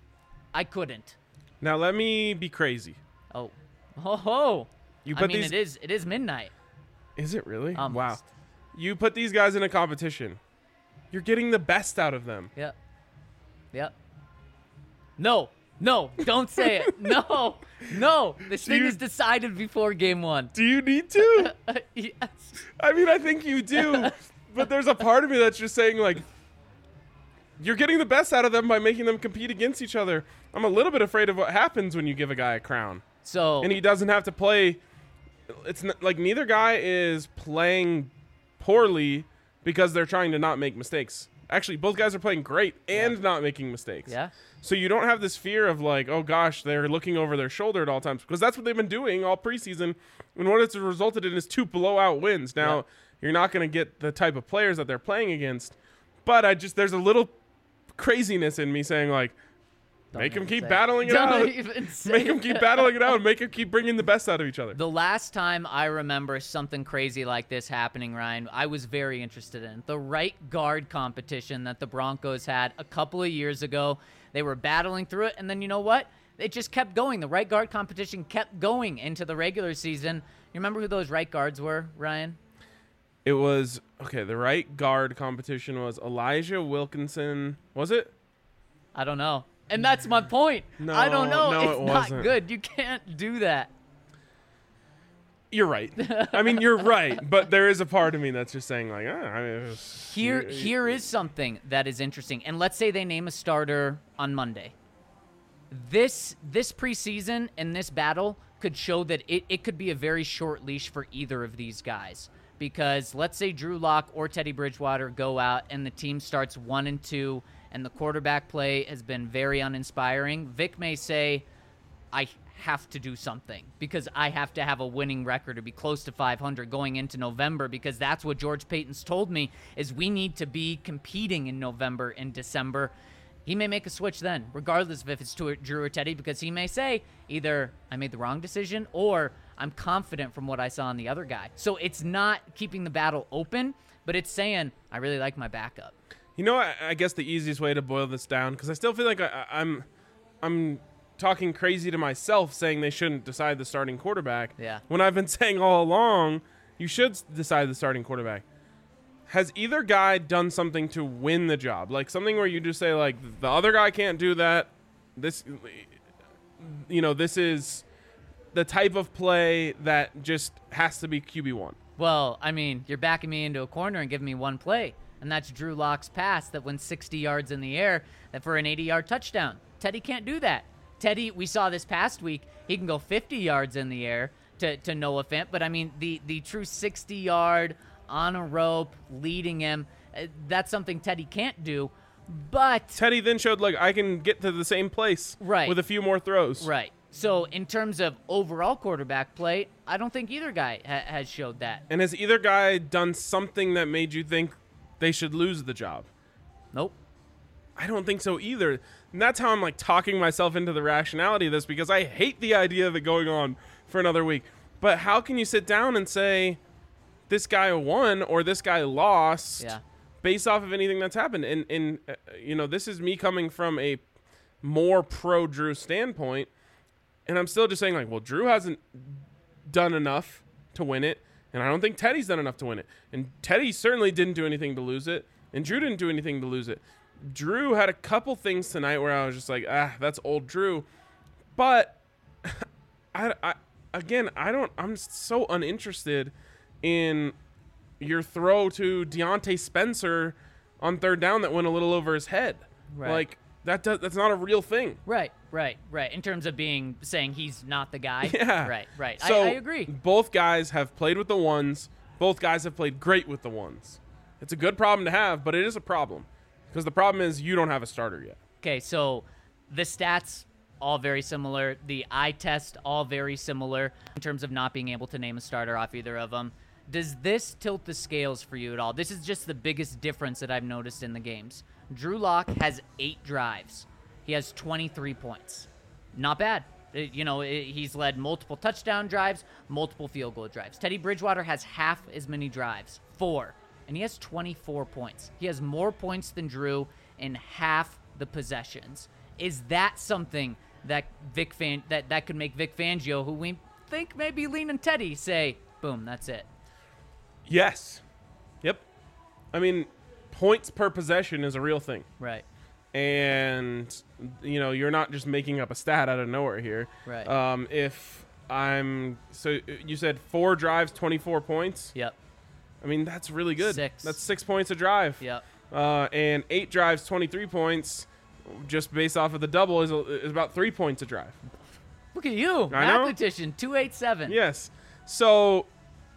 I couldn't. now let me be crazy. Oh, ho ho! You I put mean, these. it is it is midnight. Is it really? Wow. Almost. You put these guys in a competition. You're getting the best out of them. Yep. Yep. No, no, don't say it. No, no. This thing you- is decided before game one. Do you need to? Yes. I mean, I think you do. But there's a part of me that's just saying, like, you're getting the best out of them by making them compete against each other. I'm a little bit afraid of what happens when you give a guy a crown. So And he doesn't have to play. It's not, like neither guy is playing poorly because they're trying to not make mistakes. Actually, both guys are playing great and not making mistakes. yeah. So you don't have this fear of like, oh gosh, they're looking over their shoulder at all times because that's what they've been doing all preseason. And what it's resulted in is two blowout wins. Now Yeah. you're not going to get the type of players that they're playing against, but I just there's a little craziness in me saying like, Don't make them even keep say it. battling it Don't out. even say Make them keep it. battling it out. Make them keep bringing the best out of each other. The last time I remember something crazy like this happening, Ryan, I was very interested in the right guard competition that the Broncos had a couple of years ago. They were battling through it, and then you know what? It just kept going. The right guard competition kept going into the regular season. You remember who those right guards were, Ryan? It was okay. The right guard competition was Elijah Wilkinson. Was it? I don't know. And that's my point. No, I don't know. no, it's it not wasn't. good. You can't do that. You're right. I mean, you're right. But there is a part of me that's just saying like, ah, I mean, it was- Here, you- here is something that is interesting. And let's say they name a starter on Monday. This this preseason and this battle could show that it, it could be a very short leash for either of these guys. Because let's say Drew Lock or Teddy Bridgewater go out and the team starts one and two and the quarterback play has been very uninspiring. Vic may say, I have to do something because I have to have a winning record or be close to five hundred going into November because that's what George Payton's told me is we need to be competing in November and December. he may make a switch then, regardless of if it's to Drew or Teddy, because he may say either I made the wrong decision or I'm confident from what I saw in the other guy. So it's not keeping the battle open, but it's saying I really like my backup. You know, I, I guess the easiest way to boil this down, because I still feel like I, I'm, I'm talking crazy to myself saying they shouldn't decide the starting quarterback. Yeah. When I've been saying all along, you should s- decide the starting quarterback. Has either guy done something to win the job? Like something where you just say, like, the other guy can't do that. This, you know, this is the type of play that just has to be Q B one. Well, I mean, you're backing me into a corner and giving me one play, and that's Drew Lock's pass that went sixty yards in the air that for an eighty-yard touchdown. Teddy can't do that. Teddy, we saw this past week, he can go fifty yards in the air to, to Noah Fant, but I mean, the, the true sixty-yard on a rope, leading him, uh, that's something Teddy can't do, but... Teddy then showed, like, I can get to the same place Right. with a few more throws. Right. So in terms of overall quarterback play, I don't think either guy ha- has showed that. And has either guy done something that made you think they should lose the job? Nope. I don't think so either. And that's how I'm like talking myself into the rationality of this, because I hate the idea of it going on for another week. But how can you sit down and say this guy won or this guy lost Yeah. based off of anything that's happened? And, and uh, you know, this is me coming from a more pro Drew standpoint. And I'm still just saying, like, well, Drew hasn't done enough to win it. And I don't think Teddy's done enough to win it. And Teddy certainly didn't do anything to lose it. And Drew didn't do anything to lose it. Drew had a couple things tonight where I was just like, ah, that's old Drew. But, I, I again, I don't, I'm so uninterested in your throw to Deontay Spencer on third down that went a little over his head. Right. Like, that does, that's not a real thing. Right, right, right. In terms of being saying he's not the guy. Yeah. Right, right. So I, I agree. Both guys have played with the ones. Both guys have played great with the ones. It's a good problem to have, but it is a problem. Because the problem is you don't have a starter yet. Okay, so the stats all very similar. The eye test all very similar in terms of not being able to name a starter off either of them. Does this tilt the scales for you at all? This is just the biggest difference that I've noticed in the games. Drew Lock has eight drives. He has twenty-three points. Not bad. It- you know, it- he's led multiple touchdown drives, multiple field goal drives. Teddy Bridgewater has half as many drives, four, and he has twenty-four points. He has more points than Drew in half the possessions. Is that something that Vic Fan- that, that could make Vic Fangio, who we think may be leaning Teddy, say, boom, that's it? Yes. Yep. I mean, points per possession is a real thing. Right. And, you know, you're not just making up a stat out of nowhere here. Right. Um, if I'm, so you said four drives, twenty-four points. Yep. I mean, that's really good. Six. That's six points a drive. Yep. Uh, and eight drives, twenty-three points, just based off of the double, is, is about three points a drive. Look at you, I know. mathematician, two eighty-seven. Yes. So,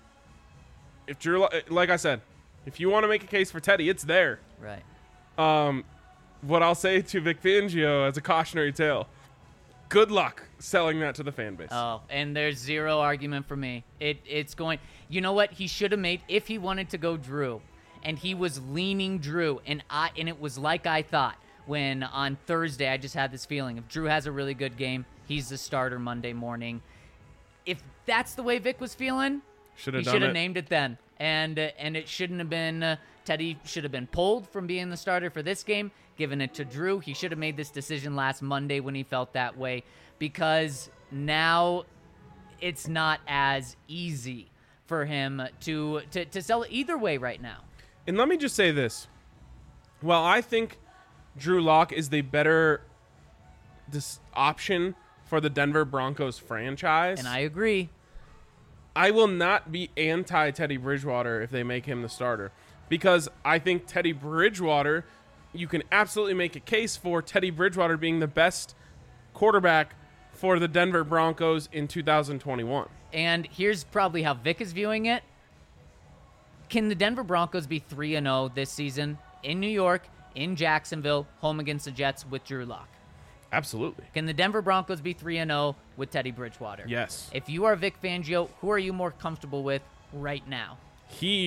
if Drew, like I said, if you want to make a case for Teddy, it's there. Right. Um, what I'll say to Vic Fangio as a cautionary tale: good luck selling that to the fan base. Oh, and there's zero argument for me. It it's going. You know what? He should have made if he wanted to go Drew, and he was leaning Drew, and I and it was like I thought when on Thursday I just had this feeling if Drew has a really good game, he's the starter Monday morning. If that's the way Vic was feeling, Should he have done should have it. named it then, and uh, and it shouldn't have been. Uh, Teddy should have been pulled from being the starter for this game, given it to Drew. He should have made this decision last Monday when he felt that way, because now it's not as easy for him to to, to sell it either way right now. And let me just say this: while I think Drew Lock is the better this option for the Denver Broncos franchise, And I agree. I will not be anti Teddy Bridgewater if they make him the starter, because I think Teddy Bridgewater, you can absolutely make a case for Teddy Bridgewater being the best quarterback for the Denver Broncos in two thousand twenty-one. And here's probably how Vic is viewing it. Can the Denver Broncos be three and oh this season in New York, in Jacksonville, home against the Jets with Drew Lock? Absolutely. Can the Denver Broncos be three and oh with Teddy Bridgewater? Yes. If you are Vic Fangio, who are you more comfortable with right now? He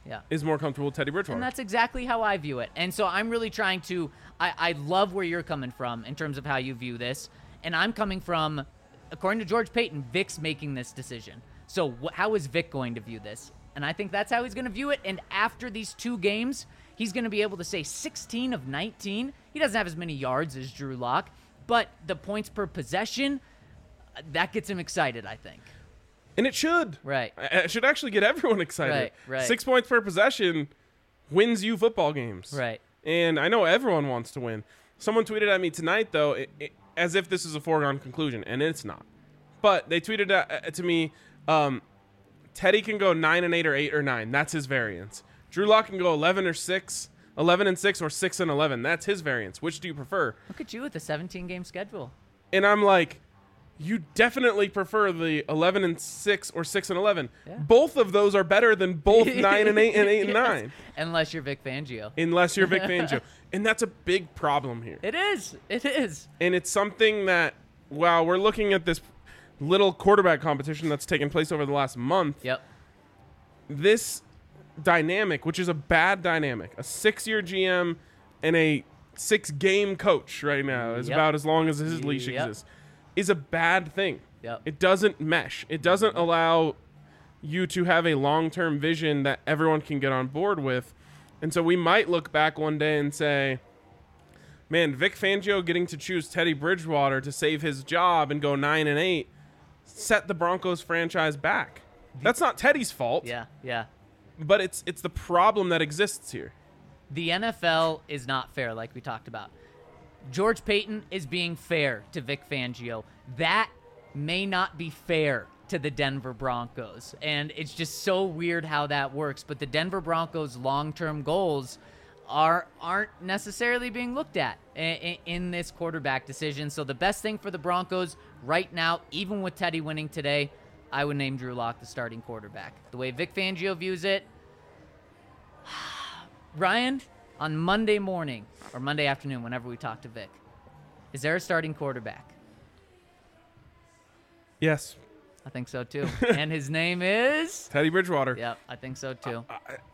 Yeah. is more comfortable with Teddy Bridgewater. And that's exactly how I view it. And so I'm really trying to, I, I love where you're coming from in terms of how you view this. And I'm coming from, according to George Payton, Vic's making this decision. So wh- how is Vic going to view this? And I think that's how he's going to view it. And after these two games, he's going to be able to say sixteen of nineteen. He doesn't have as many yards as Drew Lock, but the points per possession, that gets him excited, I think. And it should. Right. It should actually get everyone excited. Right, right. Six points per possession wins you football games. Right. And I know everyone wants to win. Someone tweeted at me tonight, though, it, it, as if this is a foregone conclusion, and it's not. But they tweeted at, to me, um, Teddy can go nine and eight or eight or nine. That's his variance. Drew Lock can go eleven or six, eleven and six or six and eleven. That's his variance. Which do you prefer? Look at you with the seventeen game schedule. And I'm like, you definitely prefer the eleven and six or six and eleven. Yeah. Both of those are better than both nine and eight and eight and Yes. nine. Unless you're Vic Fangio. Unless you're Vic Fangio. And that's a big problem here. It is. It is. And it's something that, while we're looking at this little quarterback competition that's taken place over the last month, Yep. this dynamic, which is a bad dynamic, a six-year G M and a six-game coach right now, is Yep. about as long as his leash Yep. exists, is a bad thing. Yep. It doesn't mesh. It doesn't allow you to have a long-term vision that everyone can get on board with. And so we might look back one day and say, man, Vic Fangio getting to choose Teddy Bridgewater to save his job and go nine and eight set the Broncos franchise back. That's not Teddy's fault, Yeah. Yeah. but it's it's the problem that exists here. The N F L is not fair, like we talked about. George Payton is being fair to Vic Fangio. That may not be fair to the Denver Broncos. And it's just so weird how that works. But the Denver Broncos' long-term goals are, aren't necessarily being looked at in, in this quarterback decision. So the best thing for the Broncos right now, even with Teddy winning today, I would name Drew Lock the starting quarterback. The way Vic Fangio views it, Ryan, on Monday morning or Monday afternoon, whenever we talk to Vic, is there a starting quarterback? Yes, I think so too. And his name is? Teddy Bridgewater. Yep, I think so too.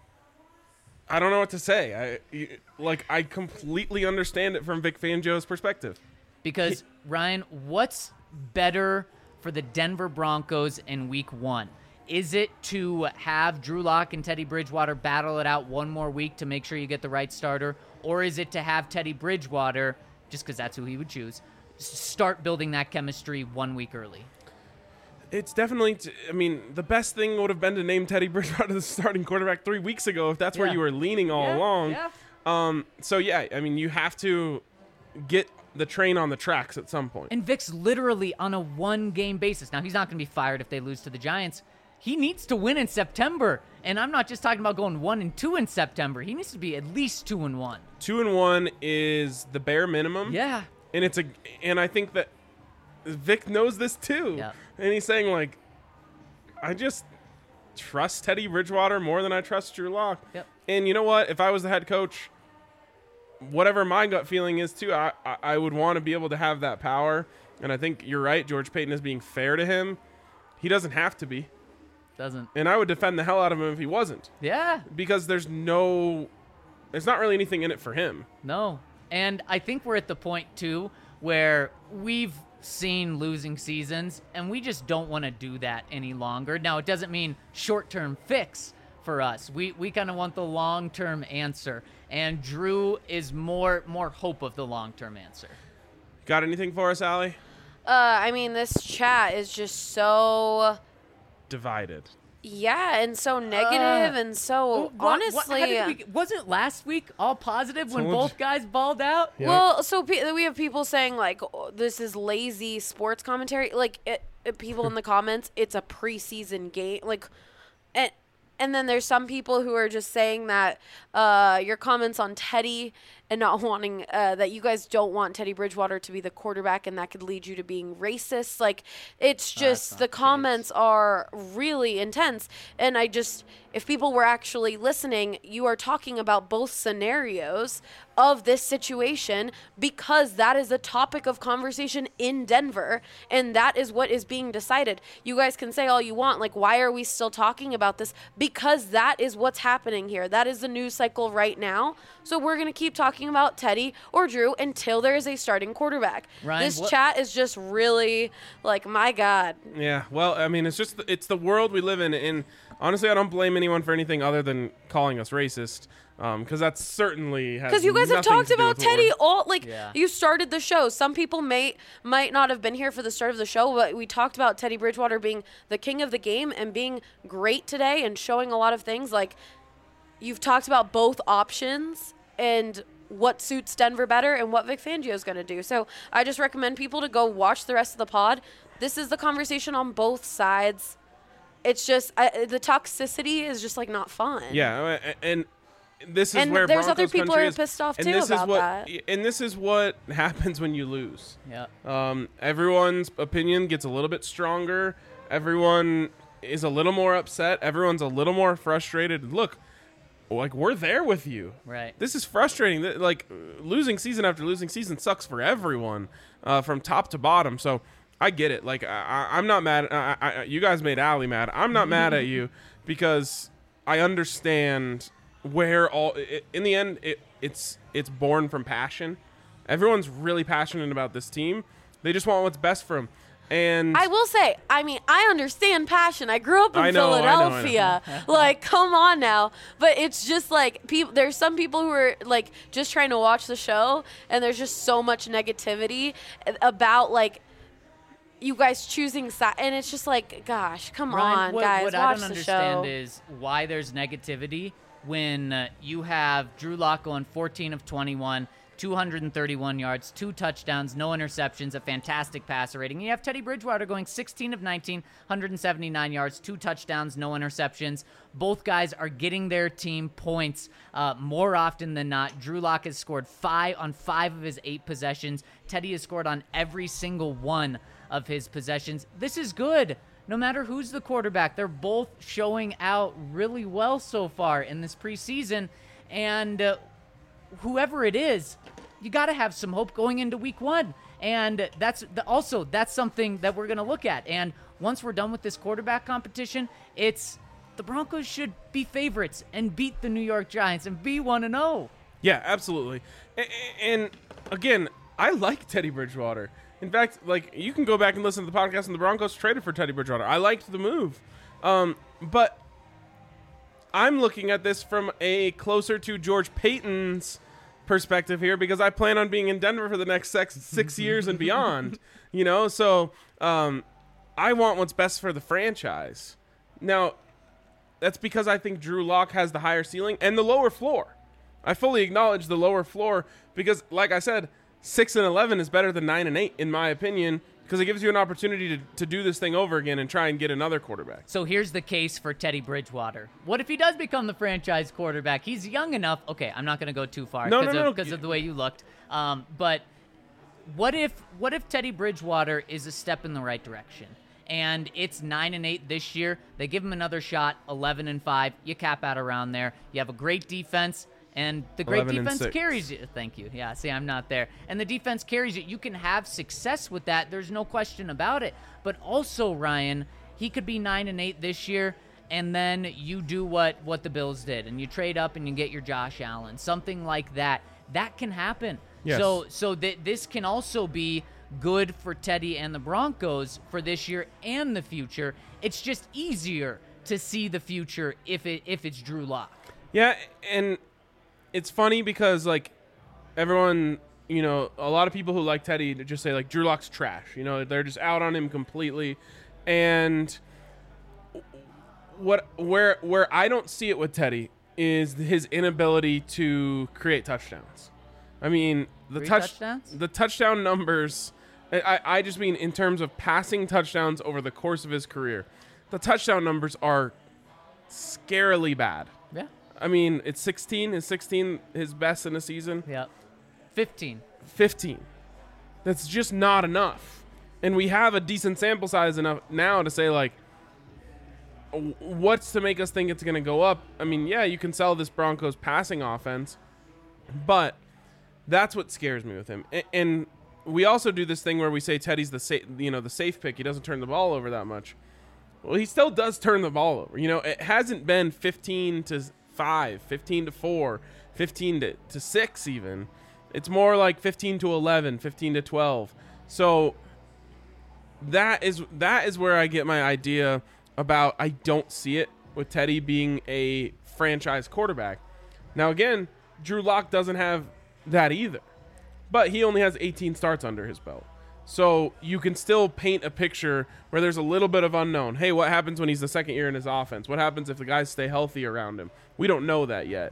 I don't know what to say. I you- like I completely understand it from Vic Fangio's perspective. Because, Ryan, what's better for the Denver Broncos in week one? Is it to have Drew Lock and Teddy Bridgewater battle it out one more week to make sure you get the right starter? Or is it to have Teddy Bridgewater, just because that's who he would choose, s- start building that chemistry one week early? It's definitely, t- I mean, the best thing would have been to name Teddy Bridgewater the starting quarterback three weeks ago if that's where Yeah. you were leaning all Yeah, along. yeah. Um, so, yeah, I mean, you have to get the train on the tracks at some point. And Vic's literally on a one-game basis. Now, he's not going to be fired if they lose to the Giants. He needs to win in September. And I'm not just talking about going one and two in September. He needs to be at least two and one. Two and one is the bare minimum. Yeah. And it's a, and I think that Vic knows this too. Yeah. And he's saying, like, I just trust Teddy Bridgewater more than I trust Drew Lock. Yep. And you know what? If I was the head coach, whatever my gut feeling is too, I, I, I would want to be able to have that power. And I think you're right. George Payton is being fair to him. He doesn't have to be. Doesn't. And I would defend the hell out of him if he wasn't. Yeah. Because there's no, there's not really anything in it for him. No. And I think we're at the point, too, where we've seen losing seasons, and we just don't want to do that any longer. Now, it doesn't mean short-term fix for us. We we kind of want the long-term answer, and Drew is more more hope of the long-term answer. Got anything for us, Allie? Uh, I mean, this chat is just so, Divided. yeah, and so negative, and so What- what- honestly. how did we, wasn't last week all positive when Told both you. guys balled out? Yeah. Well, so pe- we have people saying like oh, this is lazy sports commentary. Like it, it, people in the comments, it's a preseason game. Like, and and then there's some people who are just saying that uh, your comments on Teddy and not wanting uh, that you guys don't want Teddy Bridgewater to be the quarterback, and that could lead you to being racist. Like, it's Oh, that's just not the the comments are really intense. And I just, if people were actually listening, you are talking about both scenarios of this situation because that is the topic of conversation in Denver, and that is what is being decided. You guys can say all you want, like, why are we still talking about this? Because that is what's happening here. That is the news cycle right now. So we're going to keep talking about Teddy or Drew until there is a starting quarterback. Ryan, this what- chat is just really like, my God. Yeah, well, I mean, it's just it's the world we live in, and honestly, I don't blame anyone for anything other than calling us racist, because that's certainly has Because you guys have nothing talked to do about with what Teddy we're- all like Yeah. you started the show. Some people may might not have been here for the start of the show, but we talked about Teddy Bridgewater being the king of the game and being great today and showing a lot of things. Like, you've talked about both options and what suits Denver better and what Vic Fangio is going to do. So I just recommend people to go watch the rest of the pod. This is the conversation on both sides. It's just I, the toxicity is just like not fun. Yeah, uh, and this is And where there's other Broncos people country who are is. pissed off and too this about is what, that. And this is what happens when you lose. Yeah. Um, everyone's opinion gets a little bit stronger. Everyone is a little more upset. Everyone's a little more frustrated. Look, like, we're there with you. Right. This is frustrating. Th- Like, losing season after losing season sucks for everyone, uh, from top to bottom. So I get it. Like, I, I- I'm not mad. I, I, you guys made Allie mad. I'm not mad at you because I understand where all. I in the end, it, it's it's born from passion. Everyone's really passionate about this team. They just want what's best for them. And I will say, I mean, I understand passion. I grew up in I know, I know, I know. Philadelphia. Like, come on now. But it's just like people. There's some people who are like just trying to watch the show, and there's just so much negativity about like you guys choosing side, and it's just like, gosh, come Ryan, on, what, guys, what watch I don't the understand show. is why there's negativity when uh, you have Drew Lock going fourteen of twenty-one, two hundred thirty-one yards, two touchdowns, no interceptions, a fantastic passer rating. And you have Teddy Bridgewater going sixteen of nineteen, one hundred seventy-nine yards, two touchdowns, no interceptions. Both guys are getting their team points uh, more often than not. Drew Lock has scored five on five of his eight possessions. Teddy has scored on every single one of his possessions. This is good. No matter who's the quarterback, they're both showing out really well so far in this preseason. And uh, whoever it is, you got to have some hope going into week one. And that's the, also, that's something that we're going to look at. And once we're done with this quarterback competition, it's the Broncos should be favorites and beat the New York Giants and be one and oh. yeah, absolutely. And, and again, I like Teddy Bridgewater. In fact, like, you can go back and listen to the podcast, and the Broncos traded for Teddy Bridgewater. I liked the move. Um, but I'm looking at this from a closer to George Payton's perspective here, because I plan on being in Denver for the next six, six years and beyond. You know, so um, I want what's best for the franchise. Now, that's because I think Drew Lock has the higher ceiling and the lower floor. I fully acknowledge the lower floor because, like I said, six and eleven is better than nine and eight, in my opinion, because it gives you an opportunity to, to do this thing over again and try and get another quarterback. So here's the case for Teddy Bridgewater. What if he does become the franchise quarterback? He's young enough. Okay, I'm not going to go too far No, because no, of, no. because of the way you looked. Um, but what if what if Teddy Bridgewater is a step in the right direction? And it's nine and eight this year. They give him another shot, eleven and five. You cap out around there. You have a great defense. And the great eleven and defense six. carries you. Thank you. Yeah, see, I'm not there. And the defense carries you. You can have success with that. There's no question about it. But also, Ryan, he could be nine and eight this year, and then you do what, what the Bills did, and you trade up and you get your Josh Allen, something like that. That can happen. Yes. So, so th- this can also be good for Teddy and the Broncos for this year and the future. It's just easier to see the future if it if it's Drew Lock. Yeah, and it's funny because, like, everyone, you know, a lot of people who like Teddy just say, like, Drew Lock's trash. You know, they're just out on him completely. And what where where I don't see it with Teddy is his inability to create touchdowns. I mean, the Three touch touchdowns? the touchdown numbers, I, I just mean in terms of passing touchdowns over the course of his career, the touchdown numbers are scarily bad. Yeah. I mean, it's sixteen. Is sixteen his best in a season? Yeah. fifteen. fifteen. That's just not enough. And we have a decent sample size enough now to say, like, w- what's to make us think it's going to go up? I mean, yeah, you can sell this Broncos passing offense, but that's what scares me with him. A- and we also do this thing where we say Teddy's the sa- you know, the safe pick. He doesn't turn the ball over that much. Well, he still does turn the ball over. You know, it hasn't been fifteen to five, fifteen to four, fifteen to, to six even. It's more like fifteen to eleven, fifteen to twelve. So that is that is where I get my idea about I don't see it with Teddy being a franchise quarterback. Now again, Drew Lock doesn't have that either. But he only has eighteen starts under his belt. So you can still paint a picture where there's a little bit of unknown. Hey, what happens when he's the second year in his offense? What happens if the guys stay healthy around him? We don't know that yet.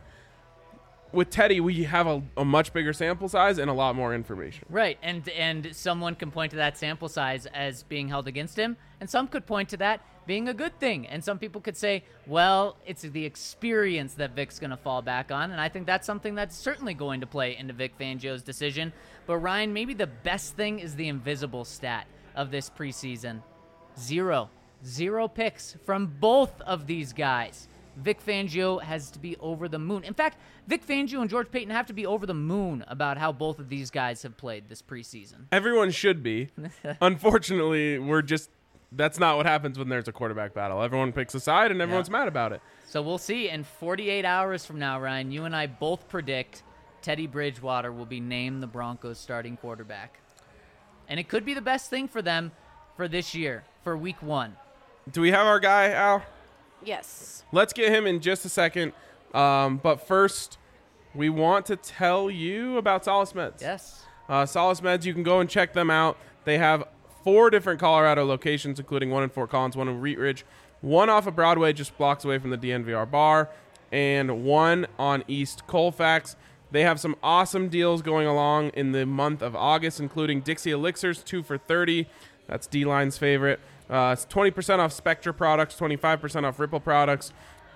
With Teddy, we have a, a much bigger sample size and a lot more information. Right, and and someone can point to that sample size as being held against him, and some could point to that being a good thing. And some people could say, well, it's the experience that Vic's going to fall back on, and I think that's something that's certainly going to play into Vic Fangio's decision. But Ryan, maybe the best thing is the invisible stat of this preseason. Zero. Zero picks from both of these guys. Vic Fangio has to be over the moon. In fact, Vic Fangio and George Paton have to be over the moon about how both of these guys have played this preseason. Everyone should be. Unfortunately, we're just that's not what happens when there's a quarterback battle. Everyone picks a side and everyone's Yeah. mad about it. So we'll see. In forty-eight hours from now, Ryan, you and I both predict Teddy Bridgewater will be named the Broncos starting quarterback. And it could be the best thing for them for this year, for week one. Do we have our guy, Al? Yes. Let's get him in just a second. Um, but first, we want to tell you about Solace Meds. Yes. Uh, Solace Meds, you can go and check them out. They have four different Colorado locations, including one in Fort Collins, one in Wheat Ridge, one off of Broadway just blocks away from the D N V R bar, and one on East Colfax. They have some awesome deals going along in the month of August, including Dixie Elixirs, two for thirty. That's D-Line's favorite. Uh, it's twenty percent off Spectra products, twenty-five percent off Ripple products.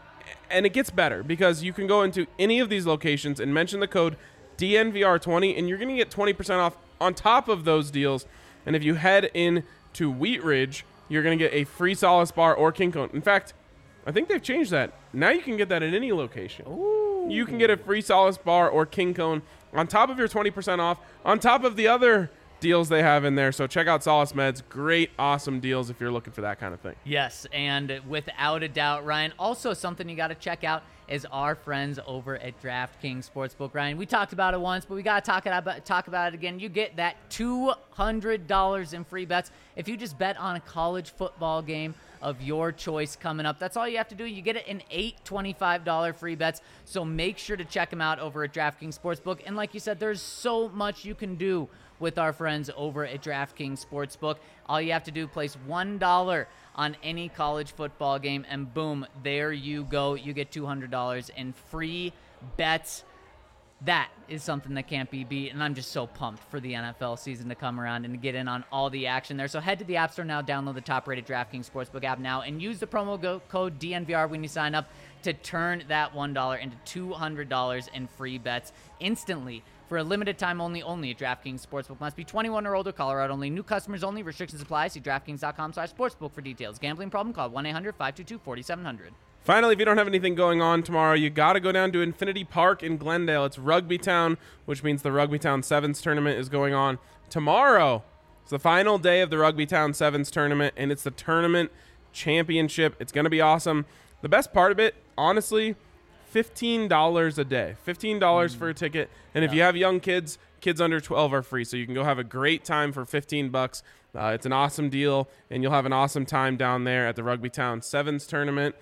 And it gets better because you can go into any of these locations and mention the code D N V R twenty, and you're going to get twenty percent off on top of those deals. And if you head in to Wheat Ridge, you're going to get a free Solace bar or King Cone. In fact, I think they've changed that. Now you can get that at any location. Ooh. You can get a free Solace bar or King Cone on top of your twenty percent off, on top of the other deals they have in there. So check out Solace Meds. Great, awesome deals if you're looking for that kind of thing. Yes, and without a doubt, Ryan, also something you got to check out is our friends over at DraftKings Sportsbook. Ryan, we talked about it once, but we got to talk about talk about it again. You get that two hundred dollars in free bets if you just bet on a college football game of your choice coming up. That's all you have to do. You get it in eight twenty-five dollars free bets. So make sure to check them out over at DraftKings Sportsbook. And like you said, there's so much you can do with our friends over at DraftKings Sportsbook. All you have to do, place one dollar on any college football game, and boom, there you go. You get two hundred dollars in free bets. That is something that can't be beat, and I'm just so pumped for the N F L season to come around and to get in on all the action there. So head to the App Store now, download the top-rated DraftKings Sportsbook app now, and use the promo go- code D N V R when you sign up to turn that one dollar into two hundred dollars in free bets instantly. For a limited time only, only at DraftKings Sportsbook. Must be twenty-one or older, Colorado only. New customers only. Restrictions apply. See DraftKings.com slash sportsbook for details. Gambling problem? Call one eight hundred five two two four seven zero zero. Finally, if you don't have anything going on tomorrow, you got to go down to Infinity Park in Glendale. It's Rugby Town, which means the Rugby Town Sevens tournament is going on tomorrow. It's the final day of the Rugby Town Sevens tournament, and it's the tournament championship. It's going to be awesome. The best part of it, honestly, fifteen dollars a day. fifteen dollars mm. for a ticket. And if Yeah. you have young kids, kids under twelve are free. So you can go have a great time for fifteen bucks. Uh, it's an awesome deal, and you'll have an awesome time down there at the Rugby Town Sevens tournament.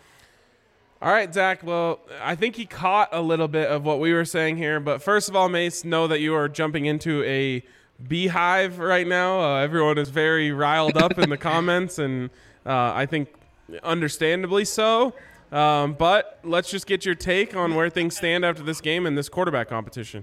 All right, Zach. Well, I think he caught a little bit of what we were saying here. But first of all, Mace, know that you are jumping into a beehive right now. Uh, everyone is very riled up in the comments, and uh, I think understandably so. Um, but let's just get your take on where things stand after this game and this quarterback competition.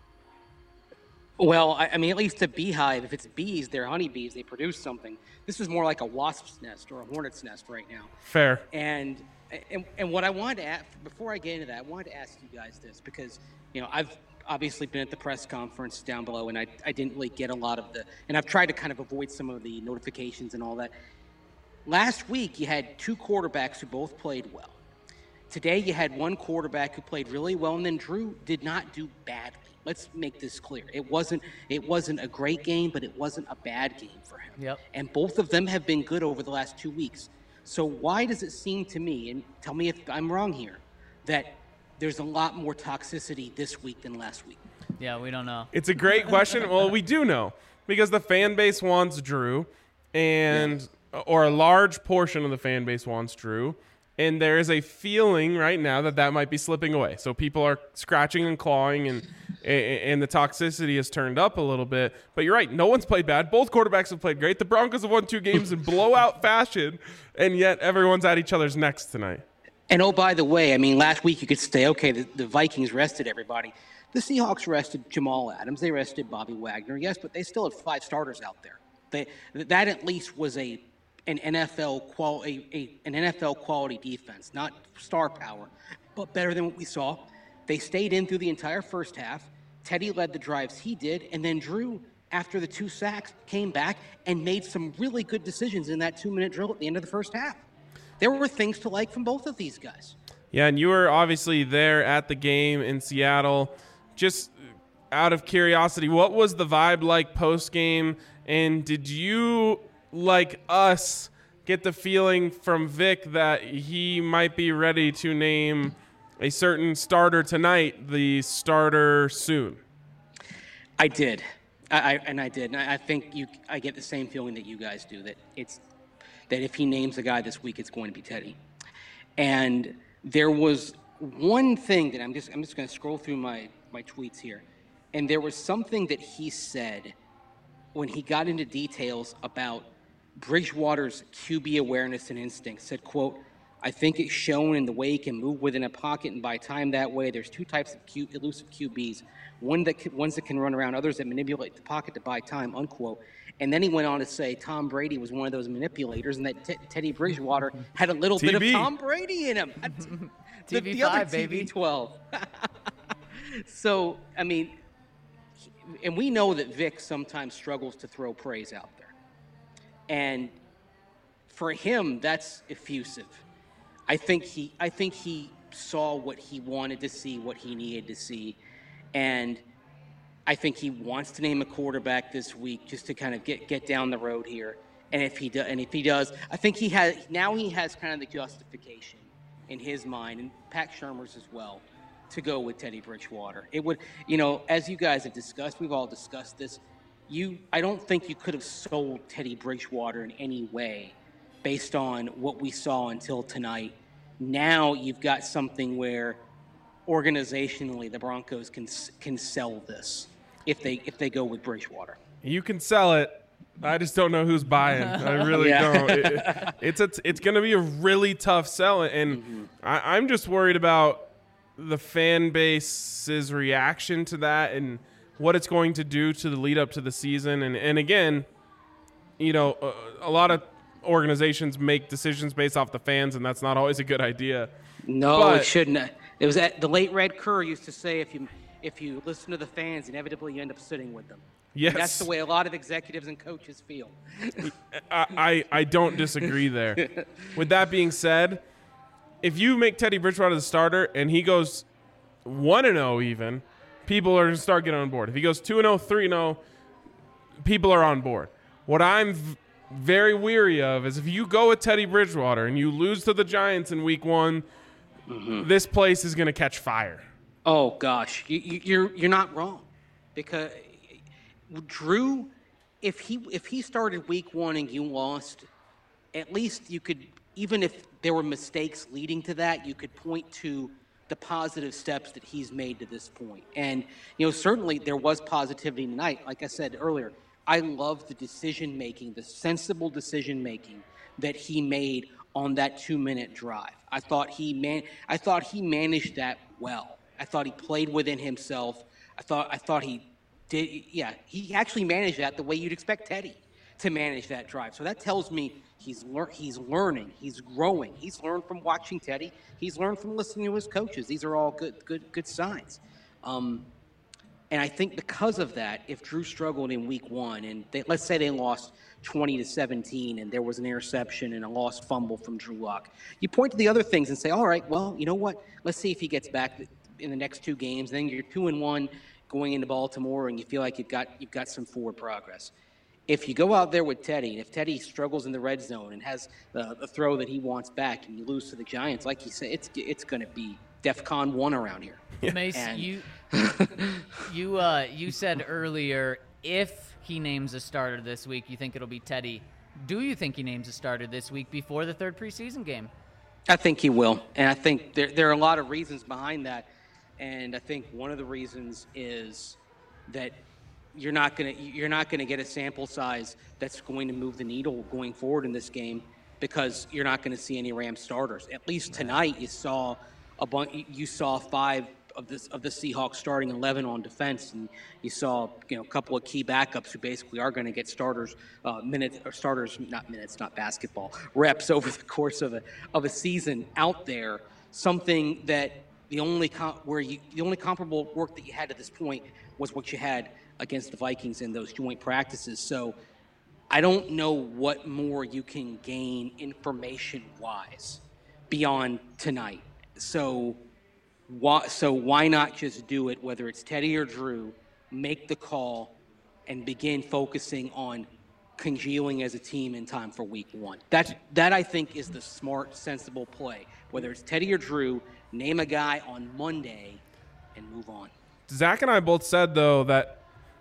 Well, I, I mean, at least a beehive, if it's bees, they're honeybees, they produce something. This is more like a wasp's nest or a hornet's nest right now. Fair. And and, and what I wanted to ask, before I get into that, I wanted to ask you guys this because, you know, I've obviously been at the press conference down below, and I, I didn't really get a lot of the, and I've tried to kind of avoid some of the notifications and all that. Last week, you had two quarterbacks who both played well. Today, you had one quarterback who played really well, and then Drew did not do badly. Let's make this clear. It wasn't it wasn't a great game, but it wasn't a bad game for him. Yep. And both of them have been good over the last two weeks. So why does it seem to me, and tell me if I'm wrong here, that there's a lot more toxicity this week than last week? Yeah, we don't know. It's a great question. Well, we do know because the fan base wants Drew, and yeah. or a large portion of the fan base wants Drew. And there is a feeling right now that that might be slipping away. So people are scratching and clawing, and and the toxicity has turned up a little bit. But you're right. No one's played bad. Both quarterbacks have played great. The Broncos have won two games in blowout fashion, and yet everyone's at each other's necks tonight. And, oh, by the way, I mean, last week you could say, okay, the, the Vikings rested everybody. The Seahawks rested Jamal Adams. They rested Bobby Wagner, yes, but they still had five starters out there. They, that at least was a an N F L qual a, a, an N F L quality defense, not star power, but better than what we saw. They stayed in through the entire first half. Teddy led the drives he did, and then Drew, after the two sacks, came back and made some really good decisions in that two-minute drill at the end of the first half. There were things to like from both of these guys. Yeah, and you were obviously there at the game in Seattle. Just out of curiosity, what was the vibe like post-game, and did you, like us, get the feeling from Vic that he might be ready to name a certain starter tonight the starter soon? I did, I, I and I did, and I, I think you. I get the same feeling that you guys do, that it's that if he names a guy this week, it's going to be Teddy. And there was one thing that I'm just I'm just going to scroll through my my tweets here, and there was something that he said when he got into details about Bridgewater's Q B awareness and instinct. Said, quote, I think it's shown in the way he can move within a pocket and buy time that way. There's two types of Q, elusive Q Bs, one that can, ones that can run around, others that manipulate the pocket to buy time, unquote. And then he went on to say Tom Brady was one of those manipulators, and that t- Teddy Bridgewater had a little T V. bit of Tom Brady in him. the, the other T V twelve. So, I mean, and we know that Vic sometimes struggles to throw praise out there. And for him, that's effusive. I think he I think he saw what he wanted to see, what he needed to see. And I think he wants to name a quarterback this week just to kind of get, get down the road here. And if he do, and if he does, I think he has now he has kind of the justification in his mind, and Pat Shurmur's as well, to go with Teddy Bridgewater. It would, you know, as you guys have discussed, we've all discussed this. You, I don't think you could have sold Teddy Bridgewater in any way based on what we saw until tonight. Now you've got something where organizationally the Broncos can can sell this if they if they go with Bridgewater. You can sell it. I just don't know who's buying. I really Yeah. don't. It, it's a, it's going to be a really tough sell, and Mm-hmm. I, I'm just worried about the fan base's reaction to that and what it's going to do to the lead up to the season. And, and again, you know, a, a lot of organizations make decisions based off the fans, and that's not always a good idea. No, But- it shouldn't. It was at, the late Red Kerr used to say, if you if you listen to the fans, inevitably you end up sitting with them. Yes. That's the way a lot of executives and coaches feel. I, I, I don't disagree there. With that being said, if you make Teddy Bridgewater the starter and he goes one and oh even, people are going to start getting on board. If he goes two and oh, three and oh, people are on board. What I'm v- very weary of is if you go with Teddy Bridgewater and you lose to the Giants in week one, mm-hmm. this place is going to catch fire. Oh gosh, you, you, you're you're not wrong, because Drew, if he if he started week one and you lost, at least you could, even if there were mistakes leading to that, you could point to the positive steps that he's made to this point. And you know, certainly there was positivity tonight. Like I said earlier, I love the decision making, the sensible decision making that he made on that two-minute drive. I thought he man I thought he managed that well. I thought he played within himself. I thought I thought he did yeah, he actually managed that the way you'd expect Teddy to manage that drive. So that tells me he's lear- he's learning, he's growing. He's learned from watching Teddy. He's learned from listening to his coaches. These are all good good good signs. Um, And I think because of that, if Drew struggled in week one, and they, let's say they lost twenty to seventeen, and there was an interception and a lost fumble from Drew Lock, you point to the other things and say, all right, well, you know what? Let's see if he gets back in the next two games. Then you're two and one going into Baltimore, and you feel like you've got you've got some forward progress. If you go out there with Teddy, and if Teddy struggles in the red zone and has the, the throw that he wants back, and you lose to the Giants, like you said, it's it's going to be DEFCON one around here. Mace, And- you you uh, you said earlier if he names a starter this week, you think it'll be Teddy. Do you think he names a starter this week before the third preseason game? I think he will, and I think there there are a lot of reasons behind that, and I think one of the reasons is that you're not gonna you're not gonna get a sample size that's going to move the needle going forward in this game because you're not going to see any Rams starters. At least tonight, you saw a bunch. You saw five of this of the Seahawks starting eleven on defense, and you saw you know a couple of key backups who basically are going to get starters uh, minutes or starters not minutes, not basketball reps over the course of a of a season out there. Something that the only com- where you the only comparable work that you had at this point was what you had against the Vikings in those joint practices. So I don't know what more you can gain information-wise beyond tonight. So why, so why not just do it, whether it's Teddy or Drew, make the call and begin focusing on congealing as a team in time for week one. That, that I think, is the smart, sensible play. Whether it's Teddy or Drew, name a guy on Monday and move on. Zach and I both said, though, that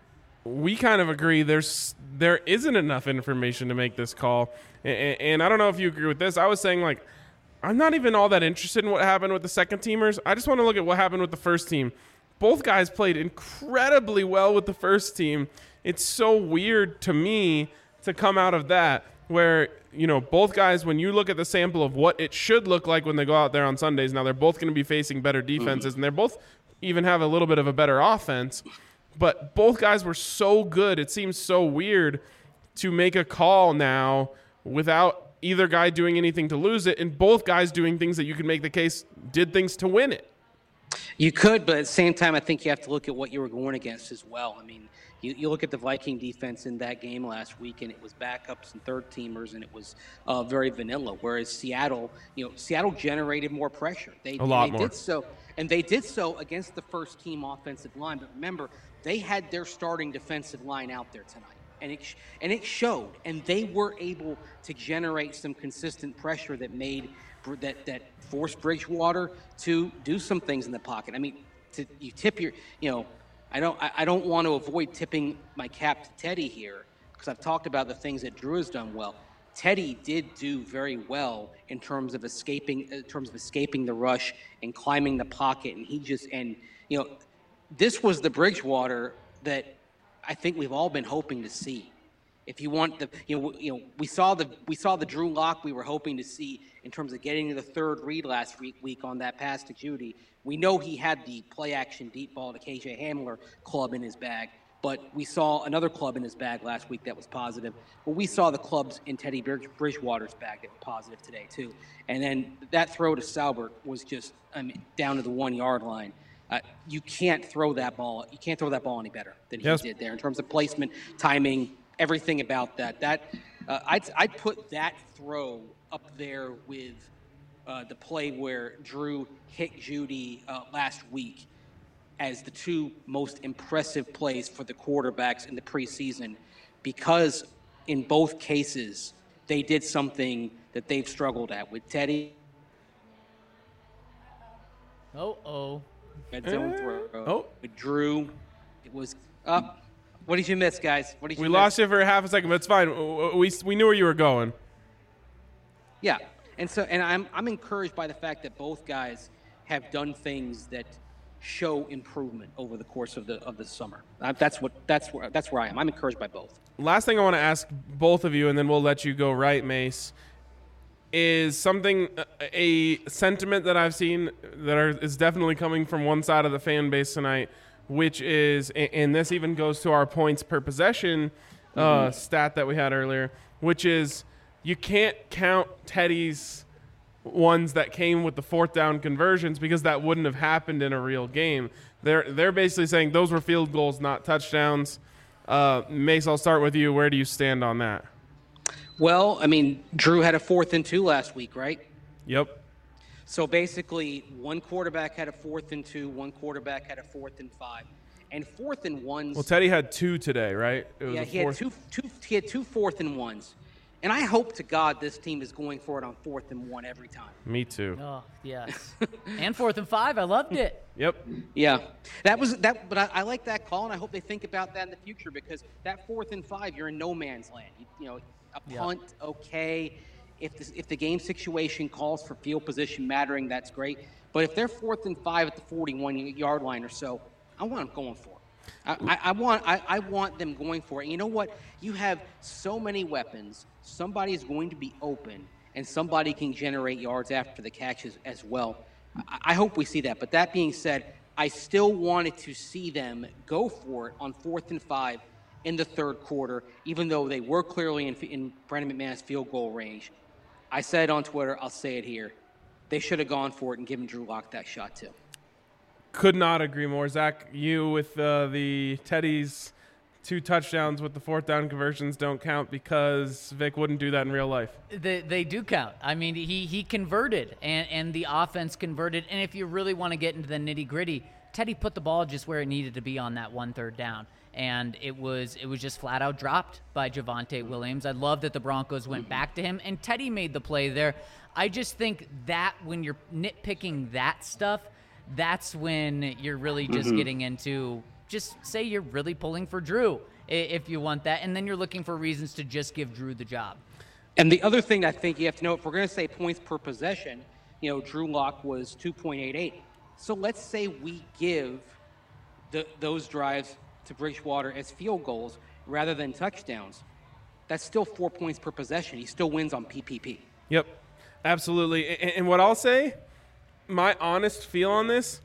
we kind of agree there's there isn't enough information to make this call. And, and I don't know if you agree with this. I was saying, like, I'm not even all that interested in what happened with the second teamers. I just want to look at what happened with the first team. Both guys played incredibly well with the first team. It's so weird to me to come out of that where, you know, both guys, when you look at the sample of what it should look like when they go out there on Sundays, now they're both going to be facing better defenses, and they're both even have a little bit of a better offense. But both guys were so good. It seems so weird to make a call now without either guy doing anything to lose it, and both guys doing things that you could make the case did things to win it. You could, but at the same time, I think you have to look at what you were going against as well. I mean, you, you look at the Viking defense in that game last week, and it was backups and third-teamers, and it was uh, very vanilla, whereas Seattle, you know, Seattle generated more pressure. They, a lot they more. did so, and they did so against the first-team offensive line. But remember, they had their starting defensive line out there tonight, and it, sh- and it showed, and they were able to generate some consistent pressure that made that that forced Bridgewater to do some things in the pocket. I mean, to, you tip your, you know, I don't I, I don't want to avoid tipping my cap to Teddy here because I've talked about the things that Drew has done well. Teddy did do very well in terms of escaping in terms of escaping the rush and climbing the pocket, and he just and you know, this was the Bridgewater that I think we've all been hoping to see. If you want the, you know, you know, we saw the we saw the Drew Lock we were hoping to see in terms of getting to the third read last week, week on that pass to Judy. We know he had the play action deep ball to K J Hamler club in his bag, but we saw another club in his bag last week that was positive. But we saw the clubs in Teddy Bridgewater's bag that were positive today too. And then that throw to Salbert was just, I mean, down to the one yard line. Uh, you can't throw that ball. You can't throw that ball any better than he Yes. did there in terms of placement, timing. Everything about that. That uh, I'd, I'd put that throw up there with uh, the play where Drew hit Judy uh, last week as the two most impressive plays for the quarterbacks in the preseason, because in both cases they did something that they've struggled at with Teddy. Oh-oh. Red zone throw. Oh. With Drew, it was up. What did you miss, guys? What did you We miss? lost you for half a second, but it's fine. We, we knew where you were going. Yeah, and so and I'm I'm encouraged by the fact that both guys have done things that show improvement over the course of the of the summer. Uh, that's what that's where that's where I am. I'm encouraged by both. Last thing I want to ask both of you, and then we'll let you go right, Mace, is something, a sentiment that I've seen that are, is definitely coming from one side of the fan base tonight, which is, and this even goes to our points per possession uh, mm-hmm. stat that we had earlier, which is you can't count Teddy's ones that came with the fourth down conversions because that wouldn't have happened in a real game. They're they're basically saying those were field goals, not touchdowns. Uh, Mace, I'll start with you. Where do you stand on that? Well, I mean, Drew had a fourth and two last week, right? Yep. So basically, one quarterback had a fourth and two, one quarterback had a fourth and five, and fourth and ones. Well, Teddy had two today, right? It was yeah, a he had two, two. He had two fourth and ones, and I hope to God this team is going for it on fourth and one every time. Me too. Oh yes, and fourth and five. I loved it. Yep. Yeah, that was that. But I, I like that call, and I hope they think about that in the future because that fourth and five, you're in no man's land. You, you know, a Yep. punt, okay. If the, if the game situation calls for field position mattering, that's great. But if they're fourth and five at the forty-one yard line or so, I want them going for it. I, I, I want I, I want them going for it. And you know what? You have so many weapons. Somebody is going to be open, and somebody can generate yards after the catches as well. I, I hope we see that. But that being said, I still wanted to see them go for it on fourth and five in the third quarter, even though they were clearly in, in Brandon McManus field goal range. I said it on Twitter, I'll say it here. They should have gone for it and given Drew Lock that shot too. Could not agree more. Zach, you with uh, the Teddy's two touchdowns with the fourth down conversions don't count because Vic wouldn't do that in real life. They, they do count. I mean, he he converted, and, and the offense converted. And if you really want to get into the nitty-gritty, Teddy put the ball just where it needed to be on that one third down. And it was it was just flat out dropped by Javonte Williams. I love that the Broncos went back to him, and Teddy made the play there. I just think that when you're nitpicking that stuff, that's when you're really just mm-hmm. getting into just say you're really pulling for Drew if you want that, and then you're looking for reasons to just give Drew the job. And the other thing I think you have to know, if we're going to say points per possession, you know, Drew Lock was two point eight eight. So let's say we give the, those drives to Bridgewater as field goals rather than touchdowns. That's still four points per possession. He still wins on P P P. Yep, absolutely. And, and what I'll say, my honest feel on this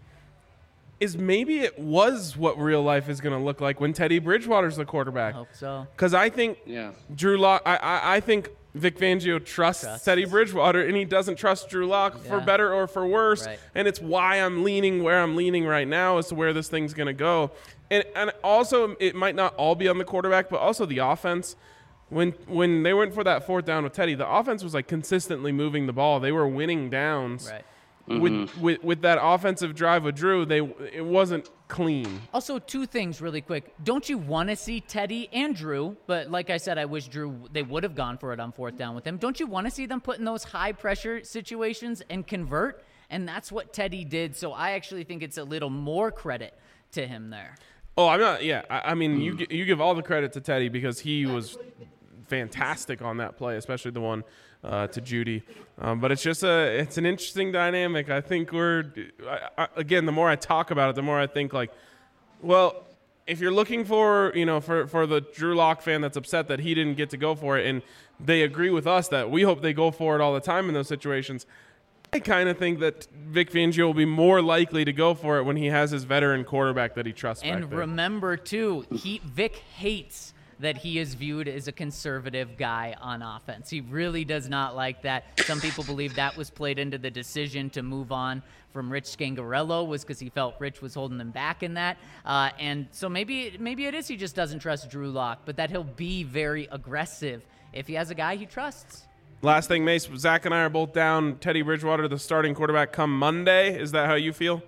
is maybe it was what real life is going to look like when Teddy Bridgewater's the quarterback. I hope so. Because I think yeah. Drew Lock, I, I, I think Vic Fangio trusts Trust. Teddy Bridgewater, and he doesn't trust Drew Lock yeah. for better or for worse. Right. And it's why I'm leaning where I'm leaning right now as to where this thing's going to go. And and also, it might not all be on the quarterback, but also the offense. When when they went for that fourth down with Teddy, the offense was like consistently moving the ball. They were winning downs. Right. Mm-hmm. With, with with that offensive drive with Drew, they it wasn't clean. Also, two things really quick. Don't you want to see Teddy and Drew? But like I said, I wish Drew, they would have gone for it on fourth down with him. Don't you want to see them put in those high-pressure situations and convert? And that's what Teddy did. So I actually think it's a little more credit to him there. Oh, I'm not. Yeah, I, I mean, mm. you you give all the credit to Teddy because he was fantastic on that play, especially the one uh, to Judy. Um, but it's just a it's an interesting dynamic. I think we're I, I, again, the more I talk about it, the more I think like, well, if you're looking for you know for for the Drew Lock fan that's upset that he didn't get to go for it, and they agree with us that we hope they go for it all the time in those situations. I kind of think that Vic Fangio will be more likely to go for it when he has his veteran quarterback that he trusts. And back there. remember, too, he Vic hates that he is viewed as a conservative guy on offense. He really does not like that. Some people believe that was played into the decision to move on from Rich Scangarello was because he felt Rich was holding him back in that. Uh, and so maybe maybe it is he just doesn't trust Drew Lock, but that he'll be very aggressive if he has a guy he trusts. Last thing, Mace, Zach and I are both down. Teddy Bridgewater, the starting quarterback, come Monday. Is that how you feel?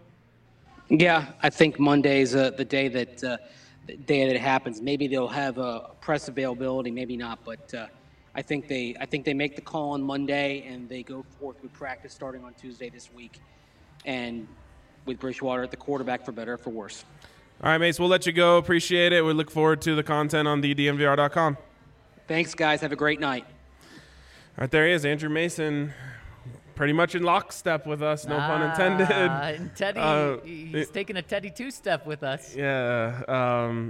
Yeah, I think Monday's uh, the day that uh, the day that it happens. Maybe they'll have a press availability, maybe not. But uh, I think they I think they make the call on Monday and they go forth with practice starting on Tuesday this week, and with Bridgewater at the quarterback for better or for worse. All right, Mace, we'll let you go. Appreciate it. We look forward to the content on the D N V R dot com. Thanks, guys. Have a great night. All right, there he is, Andrew Mason, pretty much in lockstep with us, no ah, pun intended. And Teddy, uh, he's it, taking a Teddy two-step with us. Yeah, um,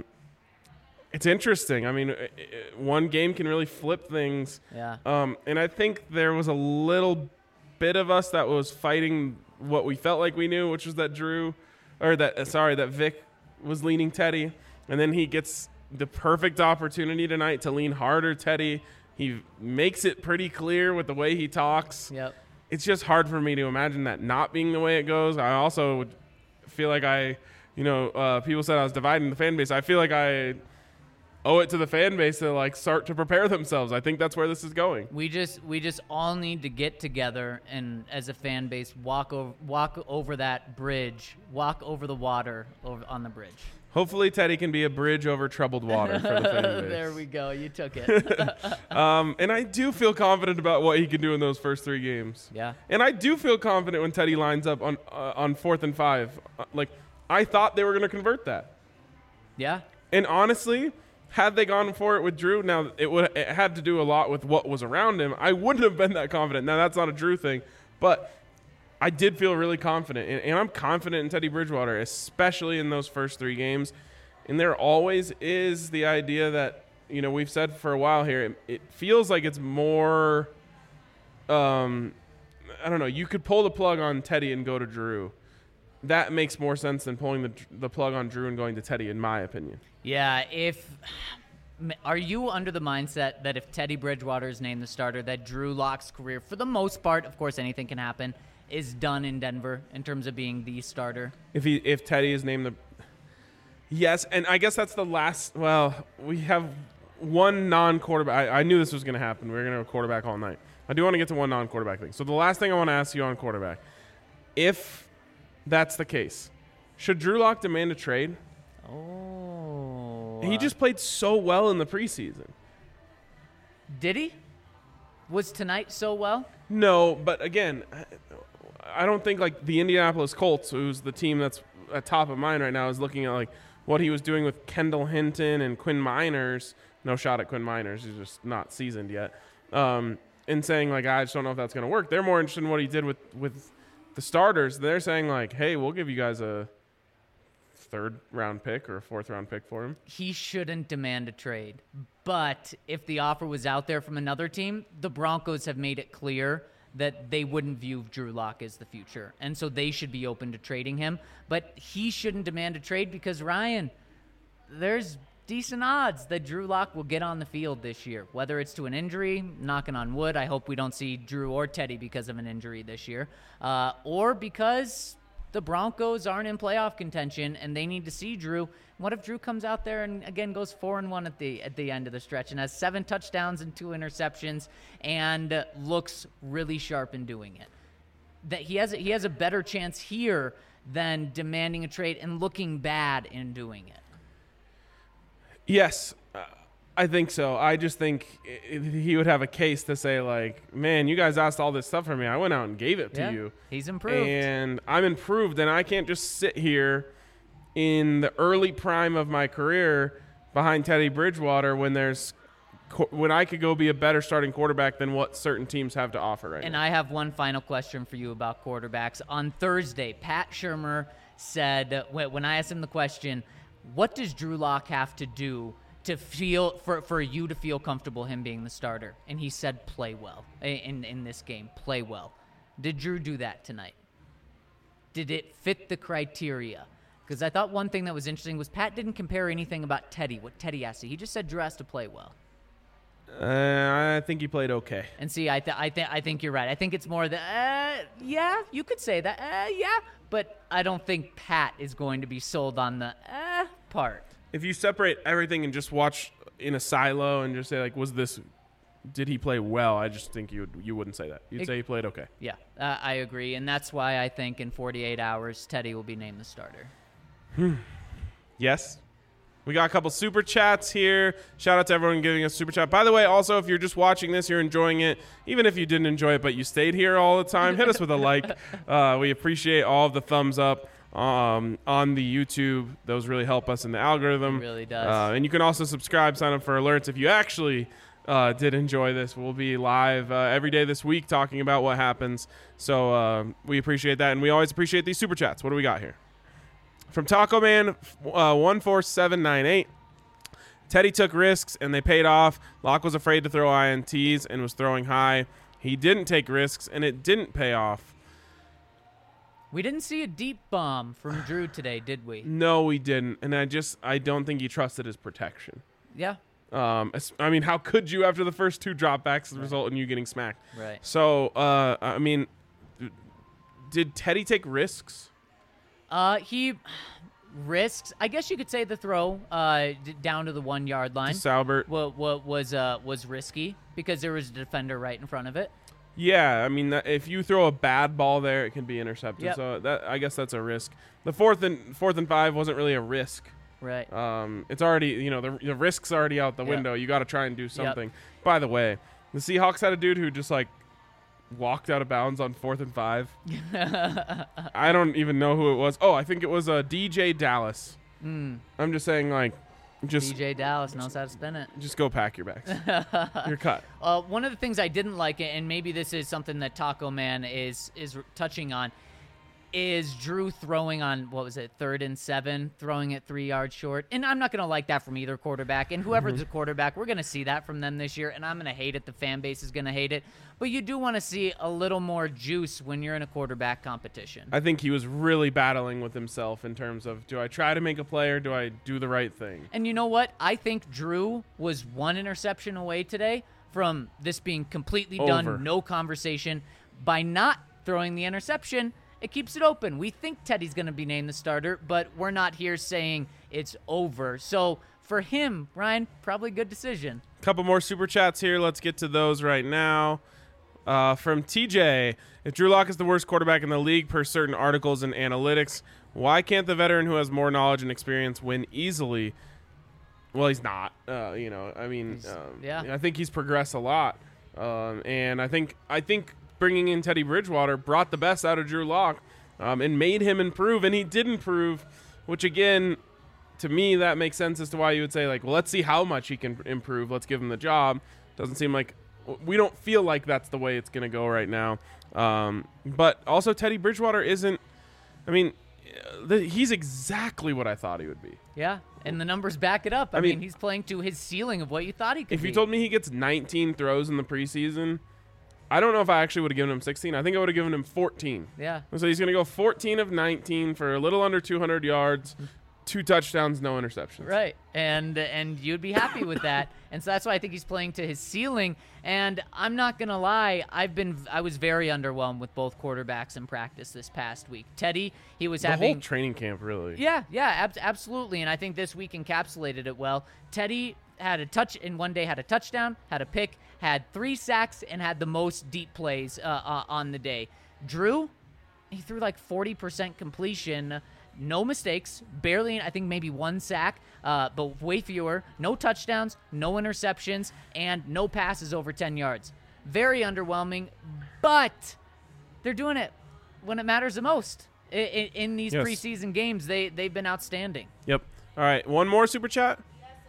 it's interesting. I mean, it, it, one game can really flip things. Yeah. Um, and I think there was a little bit of us that was fighting what we felt like we knew, which was that Drew, or that, uh, sorry, that Vic was leaning Teddy. And then he gets the perfect opportunity tonight to lean harder Teddy. He makes it pretty clear with the way he talks. Yep. it's just hard for me to imagine that not being the way it goes. I also would feel like I, you know, uh, people said I was dividing the fan base. I feel like I owe it to the fan base to like start to prepare themselves. I think that's where this is going. We just we just all need to get together and as a fan base walk over walk over that bridge, walk over the water over on the bridge. Hopefully Teddy can be a bridge over troubled water for the fan base. There we go. You took it. um, and I do feel confident about what he can do in those first three games. Yeah. And I do feel confident when Teddy lines up on uh, on fourth and five. Uh, like I thought they were going to convert that. Yeah. And honestly, had they gone for it with Drew, now it would it had to do a lot with what was around him. I wouldn't have been that confident. Now that's not a Drew thing, but I did feel really confident, and, and I'm confident in Teddy Bridgewater, especially in those first three games. And there always is the idea that, you know, we've said for a while here, it, it feels like it's more, um, I don't know, you could pull the plug on Teddy and go to Drew. That makes more sense than pulling the the plug on Drew and going to Teddy, in my opinion. Yeah, if are you under the mindset that if Teddy Bridgewater is named the starter, that Drew Lock's career, for the most part, of course anything can happen, is done in Denver in terms of being the starter? If he if Teddy is named the yes, and I guess that's the last. Well, we have one non-quarterback. I, I knew this was going to happen. We were going to have a quarterback all night. I do want to get to one non-quarterback thing. So the last thing I want to ask you on quarterback, if that's the case, should Drew Lock demand a trade? Oh, He just played so well in the preseason. Did he? Was tonight so well? No, but again, I don't think like the Indianapolis Colts, who's the team that's at top of mind right now, is looking at like what he was doing with Kendall Hinton and Quinn Miners. No shot at Quinn Miners; he's just not seasoned yet. Um, and saying like, I just don't know if that's going to work. They're more interested in what he did with with the starters. They're saying like, hey, we'll give you guys a third round pick or a fourth round pick for him. He shouldn't demand a trade. But if the offer was out there from another team, the Broncos have made it clear that they wouldn't view Drew Lock as the future. And so they should be open to trading him. But he shouldn't demand a trade because, Ryan, there's decent odds that Drew Lock will get on the field this year, whether it's to an injury, knocking on wood. I hope we don't see Drew or Teddy because of an injury this year, uh, or because the Broncos aren't in playoff contention and they need to see Drew. What if Drew comes out there and again goes four and one at the at the end of the stretch and has seven touchdowns and two interceptions and uh, looks really sharp in doing it? That he has a, he has a better chance here than demanding a trade and looking bad in doing it. Yes, uh, I think so. I just think I- he would have a case to say like, man, you guys asked all this stuff from me. I went out and gave it to Yeah, you. he's improved. And I'm improved, and I can't just sit here in the early prime of my career behind Teddy Bridgewater when there's when I could go be a better starting quarterback than what certain teams have to offer right And now. I have one final question for you about quarterbacks. On Thursday, Pat Shurmur said, when when I asked him the question, what does Drew Lock have to do to feel for, for you to feel comfortable him being the starter? And he said, play well in, in this game, play well. Did Drew do that tonight? Did it fit the criteria? Because I thought one thing that was interesting was Pat didn't compare anything about Teddy, what Teddy has to. He just said Drew has to play well. Uh, I think he played okay. And see, I th- I think I think you're right. I think it's more the uh, yeah, you could say that. Uh, yeah, but I don't think Pat is going to be sold on the uh part. If you separate everything and just watch in a silo and just say like, was this, did he play well? I just think you would, you wouldn't say that. You'd It- say he played okay. Yeah, uh, I agree, and that's why I think in forty-eight hours Teddy will be named the starter. Yes. We got a couple super chats here. Shout out to everyone giving us super chat. By the way, also, if you're just watching this, you're enjoying it. Even if you didn't enjoy it, but you stayed here all the time, hit us with a like. Uh, we appreciate all of the thumbs up um, on the YouTube. Those really help us in the algorithm. It really does. Uh, and you can also subscribe, sign up for alerts if you actually uh, did enjoy this. We'll be live uh, every day this week talking about what happens. So uh, we appreciate that. And we always appreciate these super chats. What do we got here? From Taco Man uh, one four seven nine eight, Teddy took risks and they paid off. Locke was afraid to throw I N Ts and was throwing high. He didn't take risks and it didn't pay off. We didn't see a deep bomb from Drew today, did we? No, we didn't. And I just, I don't think he trusted his protection. Yeah, Um, es- I mean, how could you after the first two dropbacks result in you getting smacked? right. So, uh, I mean, did Teddy take risks? Uh, he risks. I guess you could say the throw uh, d- down to the one yard line. To Salbert. What what was uh was risky because there was a defender right in front of it. Yeah, I mean, that, if you throw a bad ball there, it can be intercepted. Yep. So that I guess that's a risk. The fourth and fourth and five wasn't really a risk. Right. Um, it's already, you know, the, the risk's already out the Yep. window. You got to try and do something. By the way, the Seahawks had a dude who just like walked out of bounds on fourth and five. I don't even know who it was. Oh, I think it was a uh, D J Dallas. Mm. I'm just saying, like, just D J Dallas knows how to spin it. just go pack your bags. You're cut. Uh, one of the things I didn't like, and maybe this is something that Taco Man is is touching on, is Drew throwing on, what was it, third and seven, throwing it three yards short. And I'm not going to like that from either quarterback. And whoever's Mm-hmm. the quarterback, we're going to see that from them this year. And I'm going to hate it. The fan base is going to hate it. But you do want to see a little more juice when you're in a quarterback competition. I think he was really battling with himself in terms of, do I try to make a play or do I do the right thing? And you know what? I think Drew was one interception away today from this being completely Over. done, no conversation. By not throwing the interception, it keeps it open. We think Teddy's going to be named the starter, but we're not here saying it's over. So for him, Ryan, probably good decision. Couple more super chats here. Let's get to those right now. Uh, from T J, if Drew Lock is the worst quarterback in the league per certain articles and analytics, why can't the veteran who has more knowledge and experience win easily? Well, he's not. Uh, you know, I mean, um, yeah. I think he's progressed a lot, um, and I think I think bringing in Teddy Bridgewater brought the best out of Drew Lock um, and made him improve, and he did improve, which again, to me, that makes sense as to why you would say, like, well, let's see how much he can improve. Let's give him the job. Doesn't seem like we don't feel like that's the way it's going to go right now. Um, but also Teddy Bridgewater isn't, I mean, the, he's exactly what I thought he would be. Yeah, and the numbers back it up. I, I mean, mean, he's playing to his ceiling of what you thought he could If be. you told me he gets nineteen throws in the preseason, I don't know if I actually would have given him sixteen. I think I would have given him fourteen. Yeah. So he's going to go fourteen of nineteen for a little under two hundred yards, two touchdowns, no interceptions. Right, and and you'd be happy with that, and so that's why I think he's playing to his ceiling. And I'm not gonna lie, I've been I was very underwhelmed with both quarterbacks in practice this past week. Teddy, he was The having whole training camp, really. yeah, yeah, ab- absolutely, and I think this week encapsulated it well. Teddy had a touch in one day, had a touchdown, had a pick, had three sacks, and had the most deep plays uh, uh, on the day. Drew, he threw like forty percent completion. No mistakes, barely, I think maybe one sack, uh, but way fewer. No touchdowns, no interceptions, and no passes over ten yards. Very underwhelming, but they're doing it when it matters the most. In, in, in these Yes. preseason games, they, they've been outstanding. Yep. All right, one more super chat.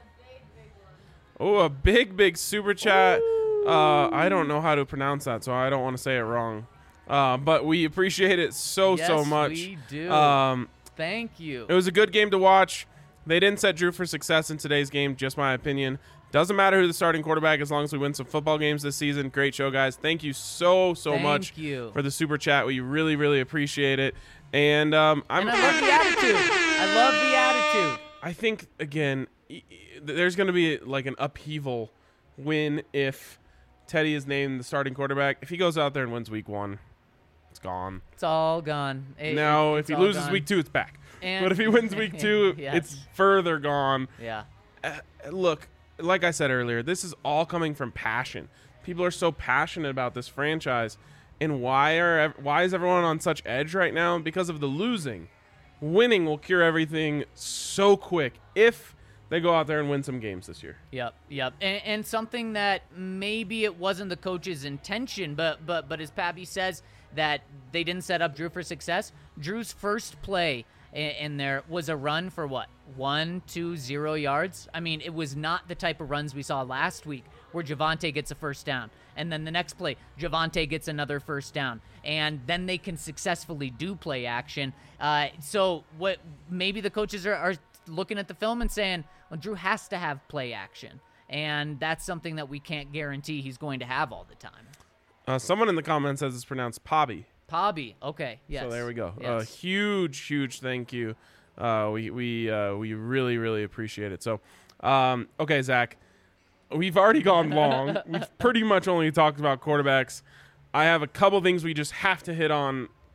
Oh, a big, big super chat. Uh, I don't know how to pronounce that, so I don't want to say it wrong. Uh, but we appreciate it so, so Yes, much. we do. Um, Thank you. It was a good game to watch. They didn't set Drew for success in today's game, just my opinion. Doesn't matter who the starting quarterback as long as we win some football games this season. Great show, guys. Thank you so, so Thank much you. for the super chat. We really, really appreciate it. And um, I'm, And I love the attitude. I love the attitude. I think, again, e- e- there's going to be like an upheaval win if Teddy is named the starting quarterback. If he goes out there and wins week one, it's gone. It's all gone. It- Now, it's if he all loses gone. week two, it's back. And- But if he wins week two, Yes. it's further gone. Yeah. Uh, look, like I said earlier, this is all coming from passion. People are so passionate about this franchise. And why are ev- why is everyone on such edge right now? Because of the losing. Winning will cure everything so quick if they go out there and win some games this year. Yep, yep, and, and something that maybe it wasn't the coach's intention, but but but as Pappy says that they didn't set up Drew for success. Drew's first play in, in there was a run for what one, two, zero yards. I mean, it was not the type of runs we saw last week where Javonte gets a first down, and then the next play Javonte gets another first down, and then they can successfully do play action. Uh, so what maybe the coaches are, are looking at the film and saying, well, Drew has to have play action, and that's something that we can't guarantee he's going to have all the time. Uh, someone in the comments says it's pronounced Pobby. Pobby, okay, yes. So there we go. A Yes. huge, huge thank you. Uh, we we uh, we really, really appreciate it. So, um, okay, Zach, we've already gone long. We've pretty much only talked about quarterbacks. I have a couple things we just have to hit on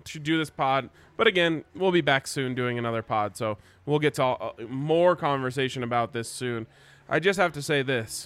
to do this pod. But again, we'll be back soon doing another pod, so we'll get to all, uh, more conversation about this soon. I just have to say this.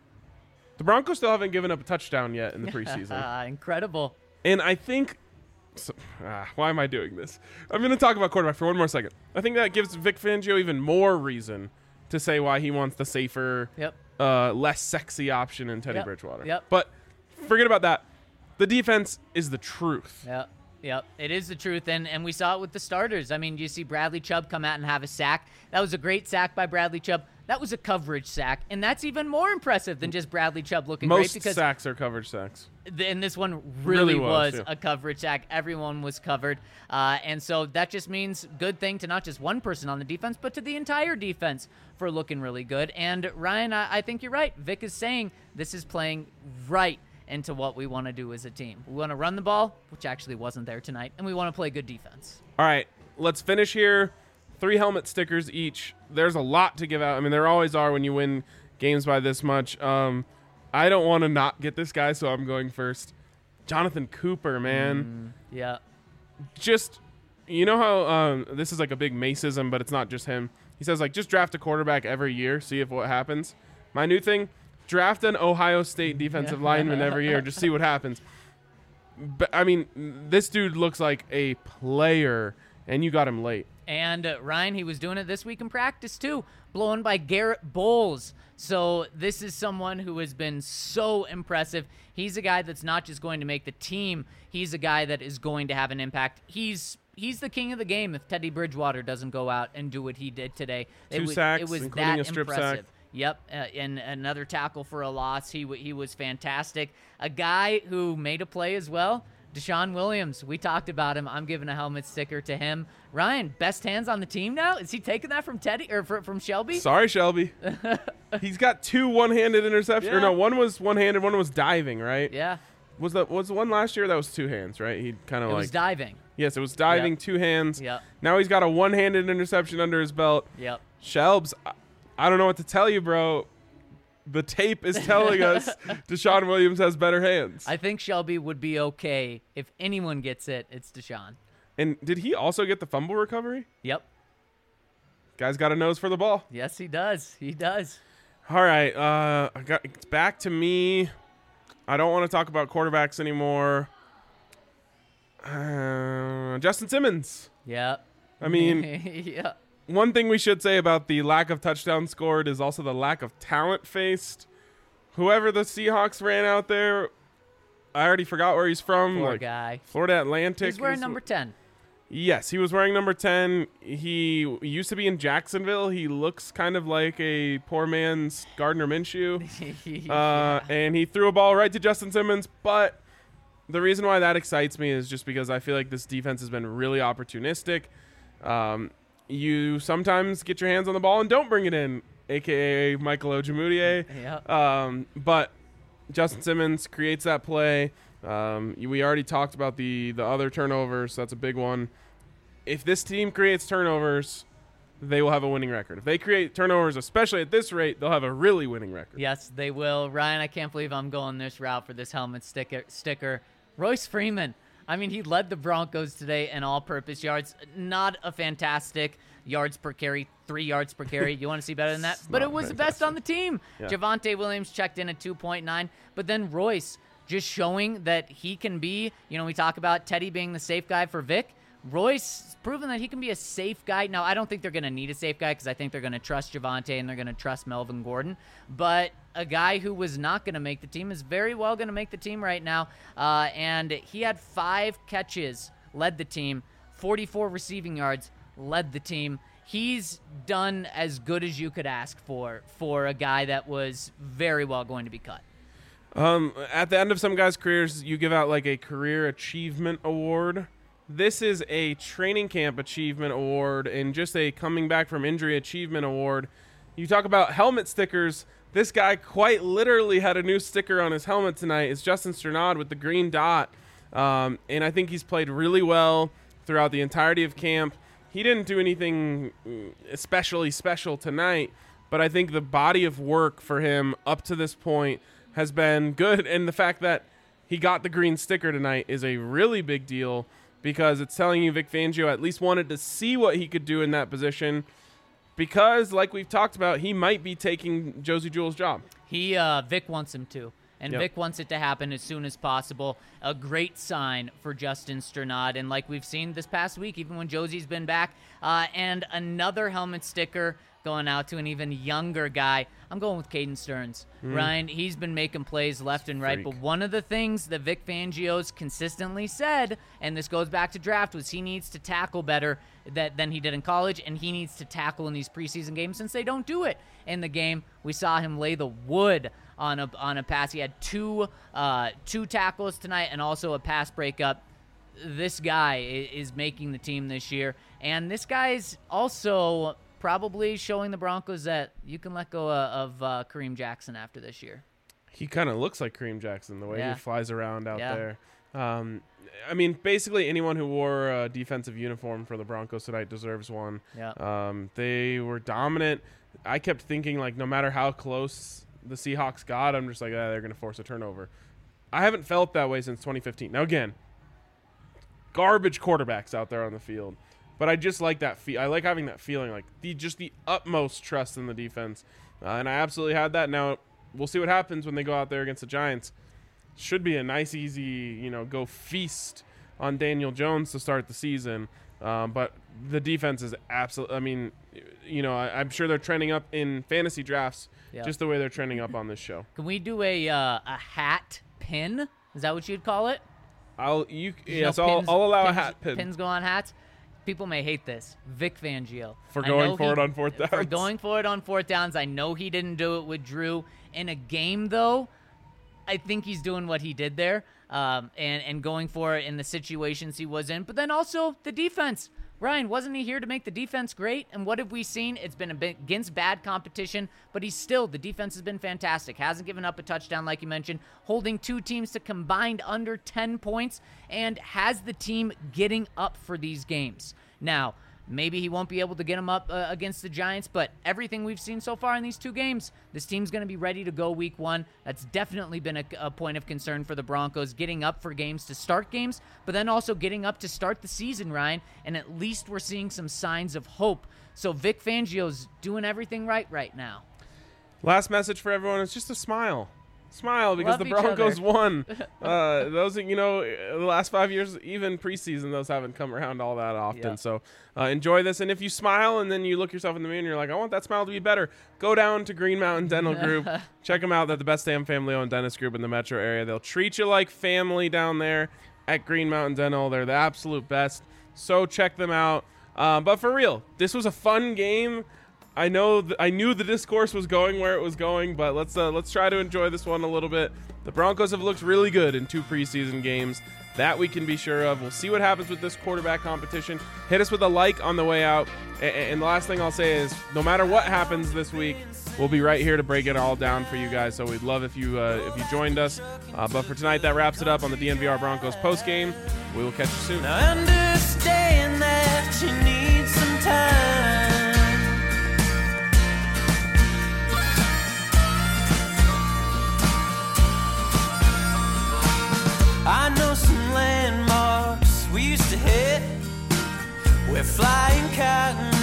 The Broncos still haven't given up a touchdown yet in the preseason. Incredible. And I think so, ah, why am I doing this? I'm going to talk about quarterback for one more second. I think that gives Vic Fangio even more reason to say why he wants the safer, Yep. uh, less sexy option in Teddy Yep. Bridgewater. Yep. But forget about that. The defense is the truth. Yep. Yep. It is the truth. And, and we saw it with the starters. I mean, you see Bradley Chubb come out and have a sack. That was a great sack by Bradley Chubb. That was a coverage sack. And that's even more impressive than just Bradley Chubb looking Most great. Because sacks are coverage sacks. th- and this one really, Really was, was yeah. a coverage sack. Everyone was covered. Uh, and so that just means good thing to not just one person on the defense, but to the entire defense for looking really good. And Ryan, I, I think you're right. Vic is saying this is playing right into what we want to do as a team. We want to run the ball, which actually wasn't there tonight, and we want to play good defense. All right, let's finish here. Three helmet stickers each. There's a lot to give out. I mean, there always are when you win games by this much. Um, I don't want to not get this guy, so I'm going first. Jonathan Cooper, man. Mm, yeah. Just, you know how um, this is like a big Maceism, but it's not just him. He says, like, just draft a quarterback every year, see if what happens. My new thing, draft an Ohio State defensive lineman every year, just see what happens. But I mean, this dude looks like a player, and you got him late. And uh, Ryan, he was doing it this week in practice too, blown by Garrett Bowles. So this is someone who has been so impressive. He's a guy that's not just going to make the team. He's a guy that is going to have an impact. He's he's the king of the game if Teddy Bridgewater doesn't go out and do what he did today. Two it was, sacks, it was including that a strip impressive. sack. Yep, uh, and another tackle for a loss. He w- he was fantastic. A guy who made a play as well. Deshaun Williams, we talked about him. I'm giving a helmet sticker to him. Ryan, best hands on the team now? Is he taking that from Teddy or fr- from Shelby? Sorry, Shelby. He's got two one-handed interceptions. Or Yeah. no, one was one-handed, one was diving, right? Yeah, Was that was the one last year? That was two hands, right? He kind of it like was diving. yes, it was diving, Yep. two hands. Yep. Now he's got a one-handed interception under his belt. Yep. Shelbs, I, I don't know what to tell you, bro. The tape is telling us Deshaun Williams has better hands. I think Shelby would be okay if anyone gets it. It's Deshaun. And did he also get the fumble recovery? Yep. Guy's got a nose for the ball. Yes, he does. He does. All right, uh, I got it's back to me. I don't want to talk about quarterbacks anymore. Uh, Justin Simmons. Yep. I mean, yeah. one thing we should say about the lack of touchdowns scored is also the lack of talent faced. Whoever the Seahawks ran out there, I already forgot where he's from. Poor like guy. Florida Atlantic. He's wearing is- number ten. Yes, he was wearing number ten. He used to be in Jacksonville. He looks kind of like a poor man's Gardner Minshew. Uh, and he threw a ball right to Justin Simmons. But the reason why that excites me is just because I feel like this defense has been really opportunistic. Um, you sometimes get your hands on the ball and don't bring it in, a k a. Michael Ojemudia. Yep. Um, but Justin Simmons creates that play. Um, we already talked about the, the other turnovers. So that's a big one. If this team creates turnovers, they will have a winning record. If they create turnovers, especially at this rate, they'll have a really winning record. Yes, they will. Ryan, I can't believe I'm going this route for this helmet sticker. sticker. Royce Freeman. I mean, he led the Broncos today in all-purpose yards. Not a fantastic yards per carry, three yards per carry. You want to see better than that? But not it was the best on the team. Yeah. Javonte Williams checked in at two point nine. But then Royce just showing that he can be, you know, we talk about Teddy being the safe guy for Vic. Royce has proven that he can be a safe guy. Now, I don't think they're going to need a safe guy because I think they're going to trust Javonte and they're going to trust Melvin Gordon. But a guy who was not going to make the team is very well going to make the team right now. Uh, and he had five catches, led the team, forty-four receiving yards, led the team. He's done as good as you could ask for, for a guy that was very well going to be cut. Um, at the end of some guys' careers, you give out like a career achievement award. This is a training camp achievement award and just a coming back from injury achievement award. You talk about helmet stickers. This guy quite literally had a new sticker on his helmet tonight. It's Justin Strnad with the green dot. Um, and I think he's played really well throughout the entirety of camp. He didn't do anything especially special tonight, but I think the body of work for him up to this point has been good. And the fact that he got the green sticker tonight is a really big deal. because it's telling you Vic Fangio at least wanted to see what he could do in that position, because like we've talked about, he might be taking Josie Jewell's job. He uh, Vic wants him to. And Yep. Vic wants it to happen as soon as possible. A great sign for Justin Strnad. And like we've seen this past week, even when Josie's been back, uh, and another helmet sticker going out to an even younger guy. I'm going with Caden Stearns. Mm. Ryan, he's been making plays left and right. Freak. But one of the things that Vic Fangio's consistently said, and this goes back to draft, was he needs to tackle better that, than he did in college, and he needs to tackle in these preseason games since they don't do it in the game. We saw him lay the wood on a on a pass. He had two uh, two tackles tonight and also a pass breakup. This guy is making the team this year, and this guy's also probably showing the Broncos that you can let go of uh, Kareem Jackson after this year. He kind of looks like Kareem Jackson, the way Yeah. he flies around out Yeah. there. Um, I mean, basically anyone who wore a defensive uniform for the Broncos tonight deserves one. Yeah. Um, they were dominant. I kept thinking, like, no matter how close the Seahawks got, I'm just like, ah, they're going to force a turnover. I haven't felt that way since twenty fifteen. Now, again, garbage quarterbacks out there on the field. But I just like that. Fe- I like having that feeling, like the just the utmost trust in the defense, uh, and I absolutely had that. Now we'll see what happens when they go out there against the Giants. Should be a nice, easy, you know, go feast on Daniel Jones to start the season. Um, but the defense is absolutely. I mean, you know, I, I'm sure they're trending up in fantasy drafts, Yeah. just the way they're trending up on this show. Can we do a uh, a hat pin? Is that what you'd call it? I'll you You yes, know, I'll, pins- I'll allow pins, a hat pin Pins go on hats. People may hate this. Vic Fangio. for I going know for it he- on fourth downs. For going for it on fourth downs. I know he didn't do it with Drew. In a game, though, I think he's doing what he did there um, and, and going for it in the situations he was in. But then also the defense. Ryan, wasn't he here to make the defense great? And what have we seen? It's been a bit against bad competition, but he's still, the defense has been fantastic. Hasn't given up a touchdown, like you mentioned, holding two teams to combined under ten points, and has the team getting up for these games. Now, maybe he won't be able to get them up uh, against the Giants, but everything we've seen so far in these two games, this team's going to be ready to go week one. That's definitely been a, a point of concern for the Broncos, getting up for games to start games, but then also getting up to start the season, Ryan, and at least we're seeing some signs of hope. So Vic Fangio's doing everything right right now. Last message for everyone is just a smile. Smile because Love the each Broncos other. won. Uh, those, you know, the last five years, even preseason, those haven't come around all that often. Yeah. So uh, enjoy this. And if you smile and then you look yourself in the mirror and you're like, I want that smile to be better, go down to Green Mountain Dental Group. Check them out. They're the best damn family-owned dentist group in the metro area. They'll treat you like family down there at Green Mountain Dental. They're the absolute best. So check them out. Uh, but for real, this was a fun game. I know th- I knew the discourse was going where it was going, but let's uh, let's try to enjoy this one a little bit. The Broncos have looked really good in two preseason games. That we can be sure of. We'll see what happens with this quarterback competition. Hit us with a like on the way out. A- and the last thing I'll say is, no matter what happens this week, we'll be right here to break it all down for you guys. So we'd love if you uh, if you joined us. Uh, but for tonight, that wraps it up on the D N V R Broncos postgame. We will catch you soon. Now understand that you need some time. I know some landmarks we used to hit where flying cotton